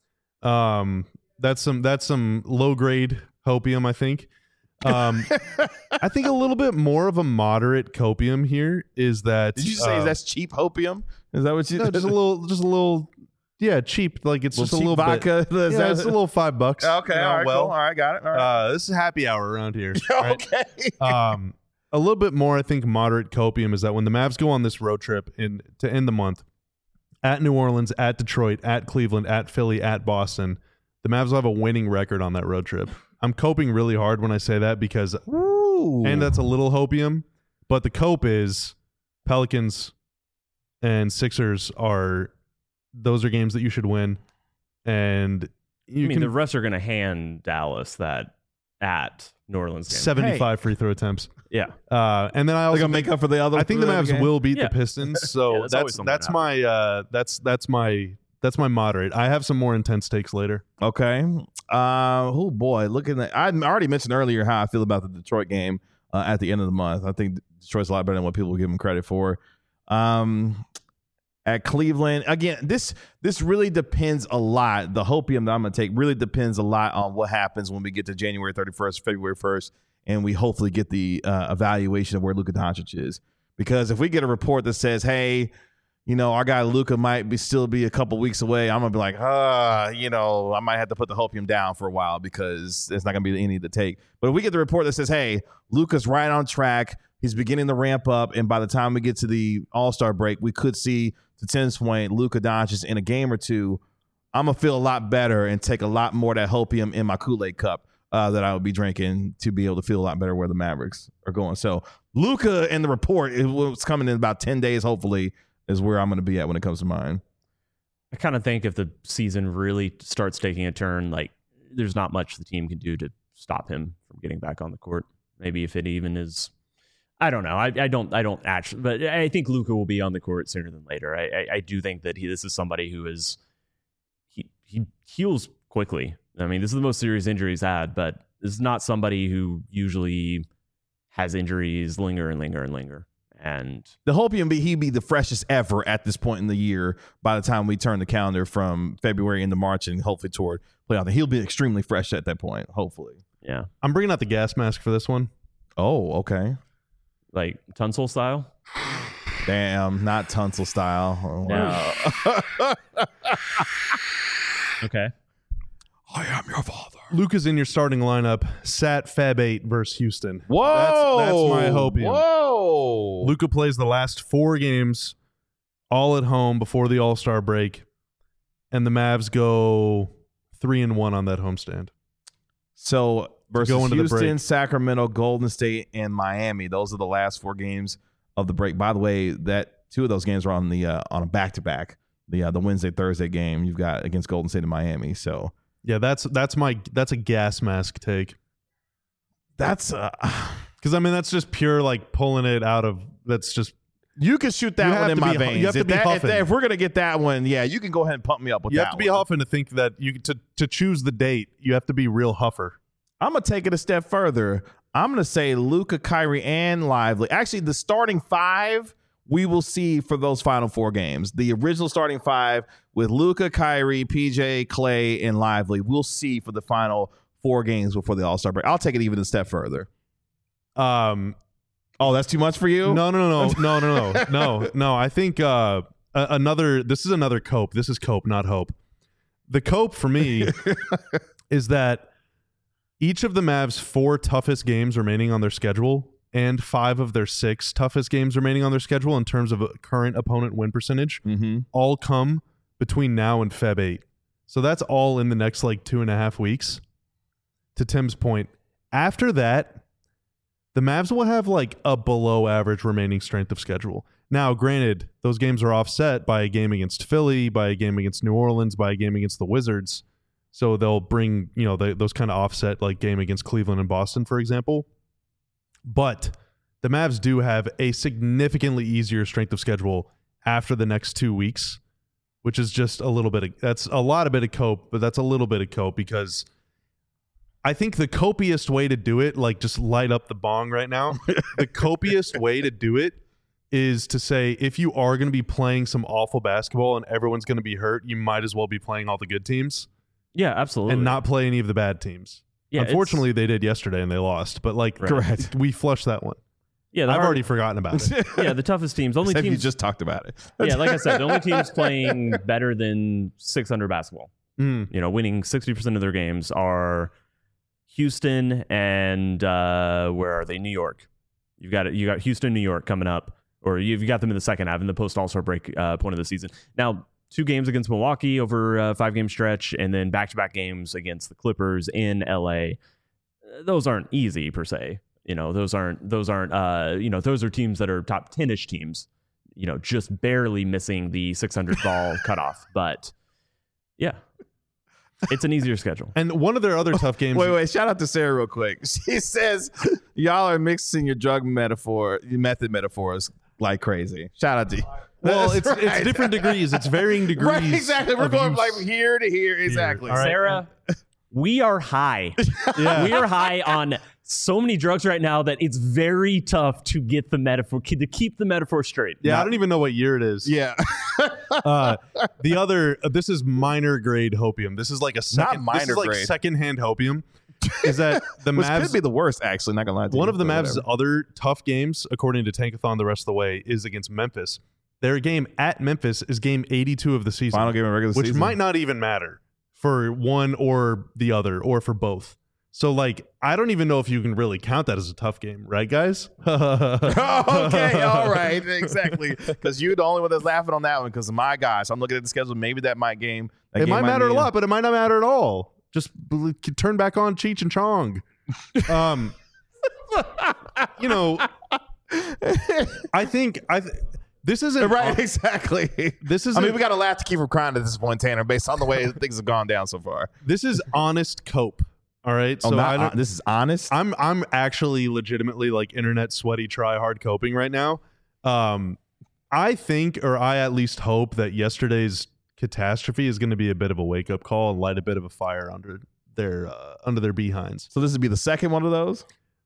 Um, that's some that's some low grade hopium, I think. Um, I think a little bit more of a moderate copium here is that. Did you say uh, that's cheap hopium? Is that what you? no, just a little, just a little, yeah, cheap. Like it's just a cheap little bit. vodka. Is Yeah, that- it's a little five bucks. Okay, you know, all right, well, cool. All right, got it. All right. uh, this is happy hour around here. right? okay. um, a little bit more, I think, moderate copium is that when the Mavs go on this road trip in to end the month at New Orleans, at Detroit, at Cleveland, at Philly, at Boston, the Mavs will have a winning record on that road trip. I'm coping really hard when I say that because, Ooh. and that's a little hopium, but the cope is Pelicans and Sixers are, those are games that you should win. And you I mean, can, the refs are going to hand Dallas that at New Orleans game. seventy-five hey. free throw attempts. Yeah. Uh, and then I also They're gonna make up for the other. I think the Mavs game? will beat yeah. the Pistons. So yeah, that's that's that's my uh, that's that's my that's my moderate. I have some more intense takes later. Okay. Uh, oh boy, looking at I already mentioned earlier how I feel about the Detroit game uh, at the end of the month. I think Detroit's a lot better than what people give them credit for. Um, at Cleveland again, this this really depends a lot. The hopium that I'm gonna take really depends a lot on what happens when we get to January thirty-first, February first, and we hopefully get the uh, evaluation of where Luka Doncic is. Because if we get a report that says, "Hey, you know, our guy Luka might be still be a couple weeks away," I'm gonna be like, "Ah, you know, I might have to put the hopium down for a while because it's not gonna be any to take." But if we get the report that says, "Hey, Luka's right on track. He's beginning to ramp up, and by the time we get to the All-Star break, we could see, to Tim's point, Luka Doncic in a game or two," I'm going to feel a lot better and take a lot more of that hopium in my Kool-Aid cup uh, that I would be drinking to be able to feel a lot better where the Mavericks are going. So Luka and the report, it was coming in about ten days, hopefully, is where I'm going to be at when it comes to mine. I kind of think if the season really starts taking a turn, like there's not much the team can do to stop him from getting back on the court. Maybe if it even is... I don't know. I, I don't. I don't actually, but I think Luka will be on the court sooner than later. I, I, I do think that he. This is somebody who is he he heals quickly. I mean, this is the most serious injury he's had, but this is not somebody who usually has injuries linger and linger and linger. And the hopium be he be the freshest ever at this point in the year. By the time we turn the calendar from February into March and hopefully toward playoff, he'll be extremely fresh at that point. Hopefully, yeah. I'm bringing out the gas mask for this one. Oh, okay. Like Tunsil style? Damn, not Tunsil style. Oh, wow. No. Okay. I am your father. Luka's in your starting lineup. Sat Fab eight versus Houston. Whoa. That's, that's my hopium. Whoa. Luka plays the last four games all at home before the All-Star break, and the Mavs go three and one on that homestand. So versus go into the Houston, break. Sacramento, Golden State, and Miami. Those are the last four games of the break. By the way, that two of those games are on the uh, on a back to back. The uh, the Wednesday Thursday game you've got against Golden State and Miami. So yeah, that's that's my that's a gas mask take. That's uh, because I mean that's just pure like pulling it out of. That's just you can shoot that You one have in to my be- veins. you have to if, be that, if, huffing. that- if we're gonna get that one, yeah, you can go ahead and pump me up with you that. have to be one. huffing to think that you to to choose the date. You have to be real huffer. I'm gonna take it a step further. I'm gonna say Luka, Kyrie, and Lively. Actually, the starting five we will see for those final four games. The original starting five with Luka, Kyrie, P J, Clay, and Lively. We'll see for the final four games before the All-Star break. I'll take it even a step further. Um, Oh, that's too much for you? no, no, no, no, no, no, no, no. I think uh, a- another. This is another cope. This is cope, not hope. The cope for me is that each of the Mavs' four toughest games remaining on their schedule and five of their six toughest games remaining on their schedule in terms of a current opponent win percentage Mm-hmm. all come between now and Feb eight. So that's all in the next like two and a half weeks. To Tim's point, after that, the Mavs will have like a below average remaining strength of schedule. Now, granted, those games are offset by a game against Philly, by a game against New Orleans, by a game against the Wizards. So they'll bring, you know, the, those kind of offset like game against Cleveland and Boston, for example. But the Mavs do have a significantly easier strength of schedule after the next two weeks, which is just a little bit of, that's a lot of bit of cope, but that's a little bit of cope because I think the copiest way to do it, like just light up the bong right now, the copiest way to do it is to say if you are going to be playing some awful basketball and everyone's going to be hurt, you might as well be playing all the good teams Yeah, absolutely. and not play any of the bad teams. Yeah, Unfortunately, they did yesterday and they lost, but like Right. Correct. we flushed that one. yeah, the I've hard- already forgotten about it. yeah, the toughest teams. Only Except you teams. just talked about it. yeah, like I said, the only teams playing better than six hundred basketball. Mm. You know, winning sixty percent of their games are Houston and uh, where are they? New York. You've got you got Houston, New York coming up, or you've got them in the second half in the post All-Star break uh, point of the season. Now, two games against Milwaukee over a five-game stretch, and then back-to-back games against the Clippers in L A. Those aren't easy per se. You know, those aren't those aren't uh, you know, those are teams that are top ten-ish teams. You know, just barely missing the six hundred ball cutoff. But yeah. It's an easier schedule. And one of their other tough games. Wait, wait. Shout out to Sarah real quick. She says y'all are mixing your drug metaphor, your method metaphors like crazy. Shout out to you. Well, That's it's right. it's different degrees. It's varying degrees. Right, exactly. We're of going use. like from here to here. Exactly. All right. Sarah, we are high. Yeah. We are high on so many drugs right now that it's very tough to get the metaphor, to keep the metaphor straight. Yeah, I don't even know what year it is. Yeah. Uh, the other, uh, this is minor grade hopium. This is like a second, minor this is like grade. secondhand hopium. Is that the Which Mavs? could be the worst, actually. Not gonna lie to you. One of the but Mavs' whatever. other tough games, according to Tankathon, the rest of the way, is against Memphis. Their game at Memphis is game eighty-two of the season, Final game of regular which season. might not even matter for one or the other, or for both. So, like, I don't even know if you can really count that as a tough game, right, guys? Oh, okay, all right, exactly. Because you're the only one that's laughing on that one. Because of my guy, so I'm looking at the schedule. Maybe that might game. That It game might matter a mean- lot, but it might not matter at all. Just bel- turn back on Cheech and Chong. Um, you know, I think I. Th- this isn't Right, exactly. This is. I mean, we got to laugh to keep from crying at this point, Tanner, based on the way things have gone down so far. This is honest cope. All right. Oh, So not I hon- don't, this is honest. I'm I'm actually legitimately like internet sweaty try hard coping right now. Um, I think, or I at least hope, that yesterday's catastrophe is going to be a bit of a wake up call and light a bit of a fire under their uh, under their behinds. So this would be the second one of those.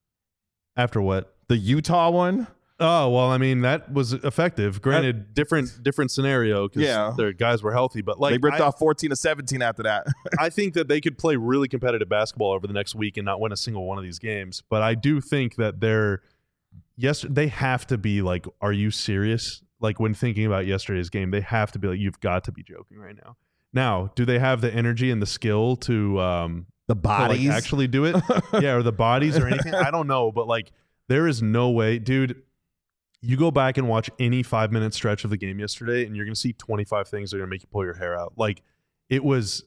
After what? The Utah one. Oh well, I mean that was effective. Granted, different different scenario because Yeah. their guys were healthy, but like they ripped I, off fourteen to seventeen after that. I think that they could play really competitive basketball over the next week and not win a single one of these games. But I do think that they're yes, they have to be like, are you serious? Like when thinking about yesterday's game, they have to be like, you've got to be joking right now. Now, do they have the energy and the skill to um The to, like, bodies. actually do it? Yeah, or the bodies or anything? I don't know, but like there is no way, dude. You go back and watch any five minute stretch of the game yesterday, and you're going to see twenty-five things that are going to make you pull your hair out. Like, it was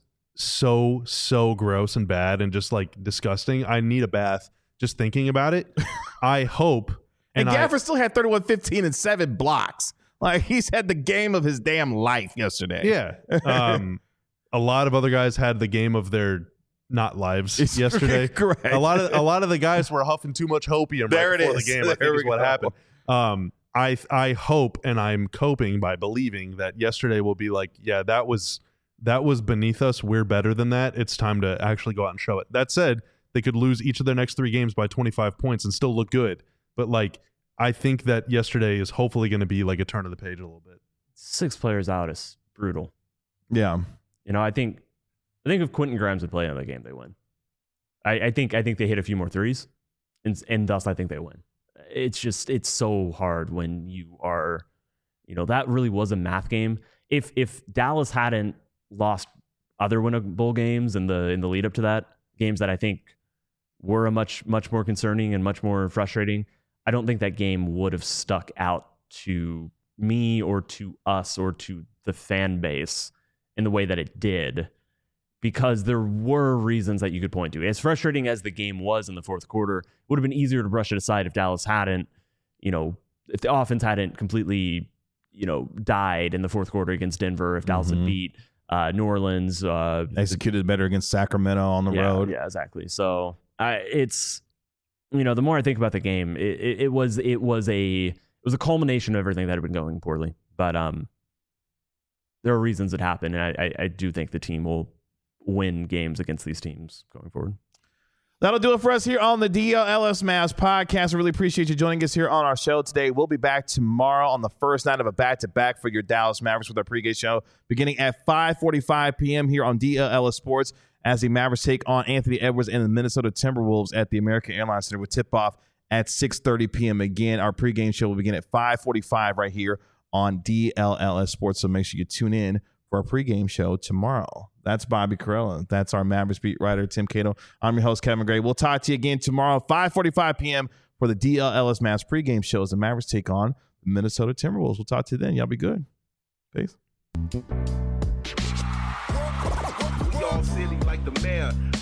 so, so gross and bad and just like disgusting. I need a bath just thinking about it. I hope. And, And I, Gafford still had thirty-one, fifteen, and seven blocks. Like, he's had the game of his damn life yesterday. yeah. Um, a lot of other guys had the game of their not lives It's yesterday. correct. A lot of a lot of the guys were huffing too much hopium There right it before is. the game. I There think we is what go. happened. Um, I I hope, and I'm coping by believing that yesterday will be like, yeah, that was that was beneath us. We're better than that. It's time to actually go out and show it. That said, they could lose each of their next three games by twenty-five points and still look good. But like, I think that yesterday is hopefully going to be like a turn of the page a little bit. Six players out is brutal. Yeah. You know, I think I think if Quentin Grimes would play in that game, they win. I, I think I think they hit a few more threes, and and thus I think they win. It's just it's so hard when you are, you know, that really was a math game. If if Dallas hadn't lost other winnable games in the in the lead up to that, games that I think were a much much more concerning and much more frustrating, I don't think that game would have stuck out to me or to us or to the fan base in the way that it did, because there were reasons that you could point to. As frustrating as the game was in the fourth quarter, it would have been easier to brush it aside if Dallas hadn't, you know, if the offense hadn't completely, you know, died in the fourth quarter against Denver, if Dallas Mhm. had beat uh, New Orleans. Uh, Executed better against Sacramento on the yeah, road. Yeah, exactly. So I, it's, you know, the more I think about the game, it, it, it was it was a it was a culmination of everything that had been going poorly. But um, there are reasons it happened, and I, I, I do think the team will win games against these teams going forward. That'll do it for us here on the D L L S Mavs podcast. I really appreciate you joining us here on our show today. We'll be back tomorrow on the first night of a back-to-back for your Dallas Mavericks with our pregame show beginning at five forty-five p.m. here on D L L S Sports as the Mavericks take on Anthony Edwards and the Minnesota Timberwolves at the American Airlines Center with tip-off at six thirty p.m. Again, our pregame show will begin at five forty-five right here on D L L S Sports, so make sure you tune in for our pregame show tomorrow. That's Bobby Carella. That's our Mavericks beat writer, Tim Cato. I'm your host, Kevin Gray. We'll talk to you again tomorrow, five forty-five p.m. for the D L L S Mavs pregame show as the Mavericks take on the Minnesota Timberwolves. We'll talk to you then. Y'all be good. Peace. We all silly like the mayor.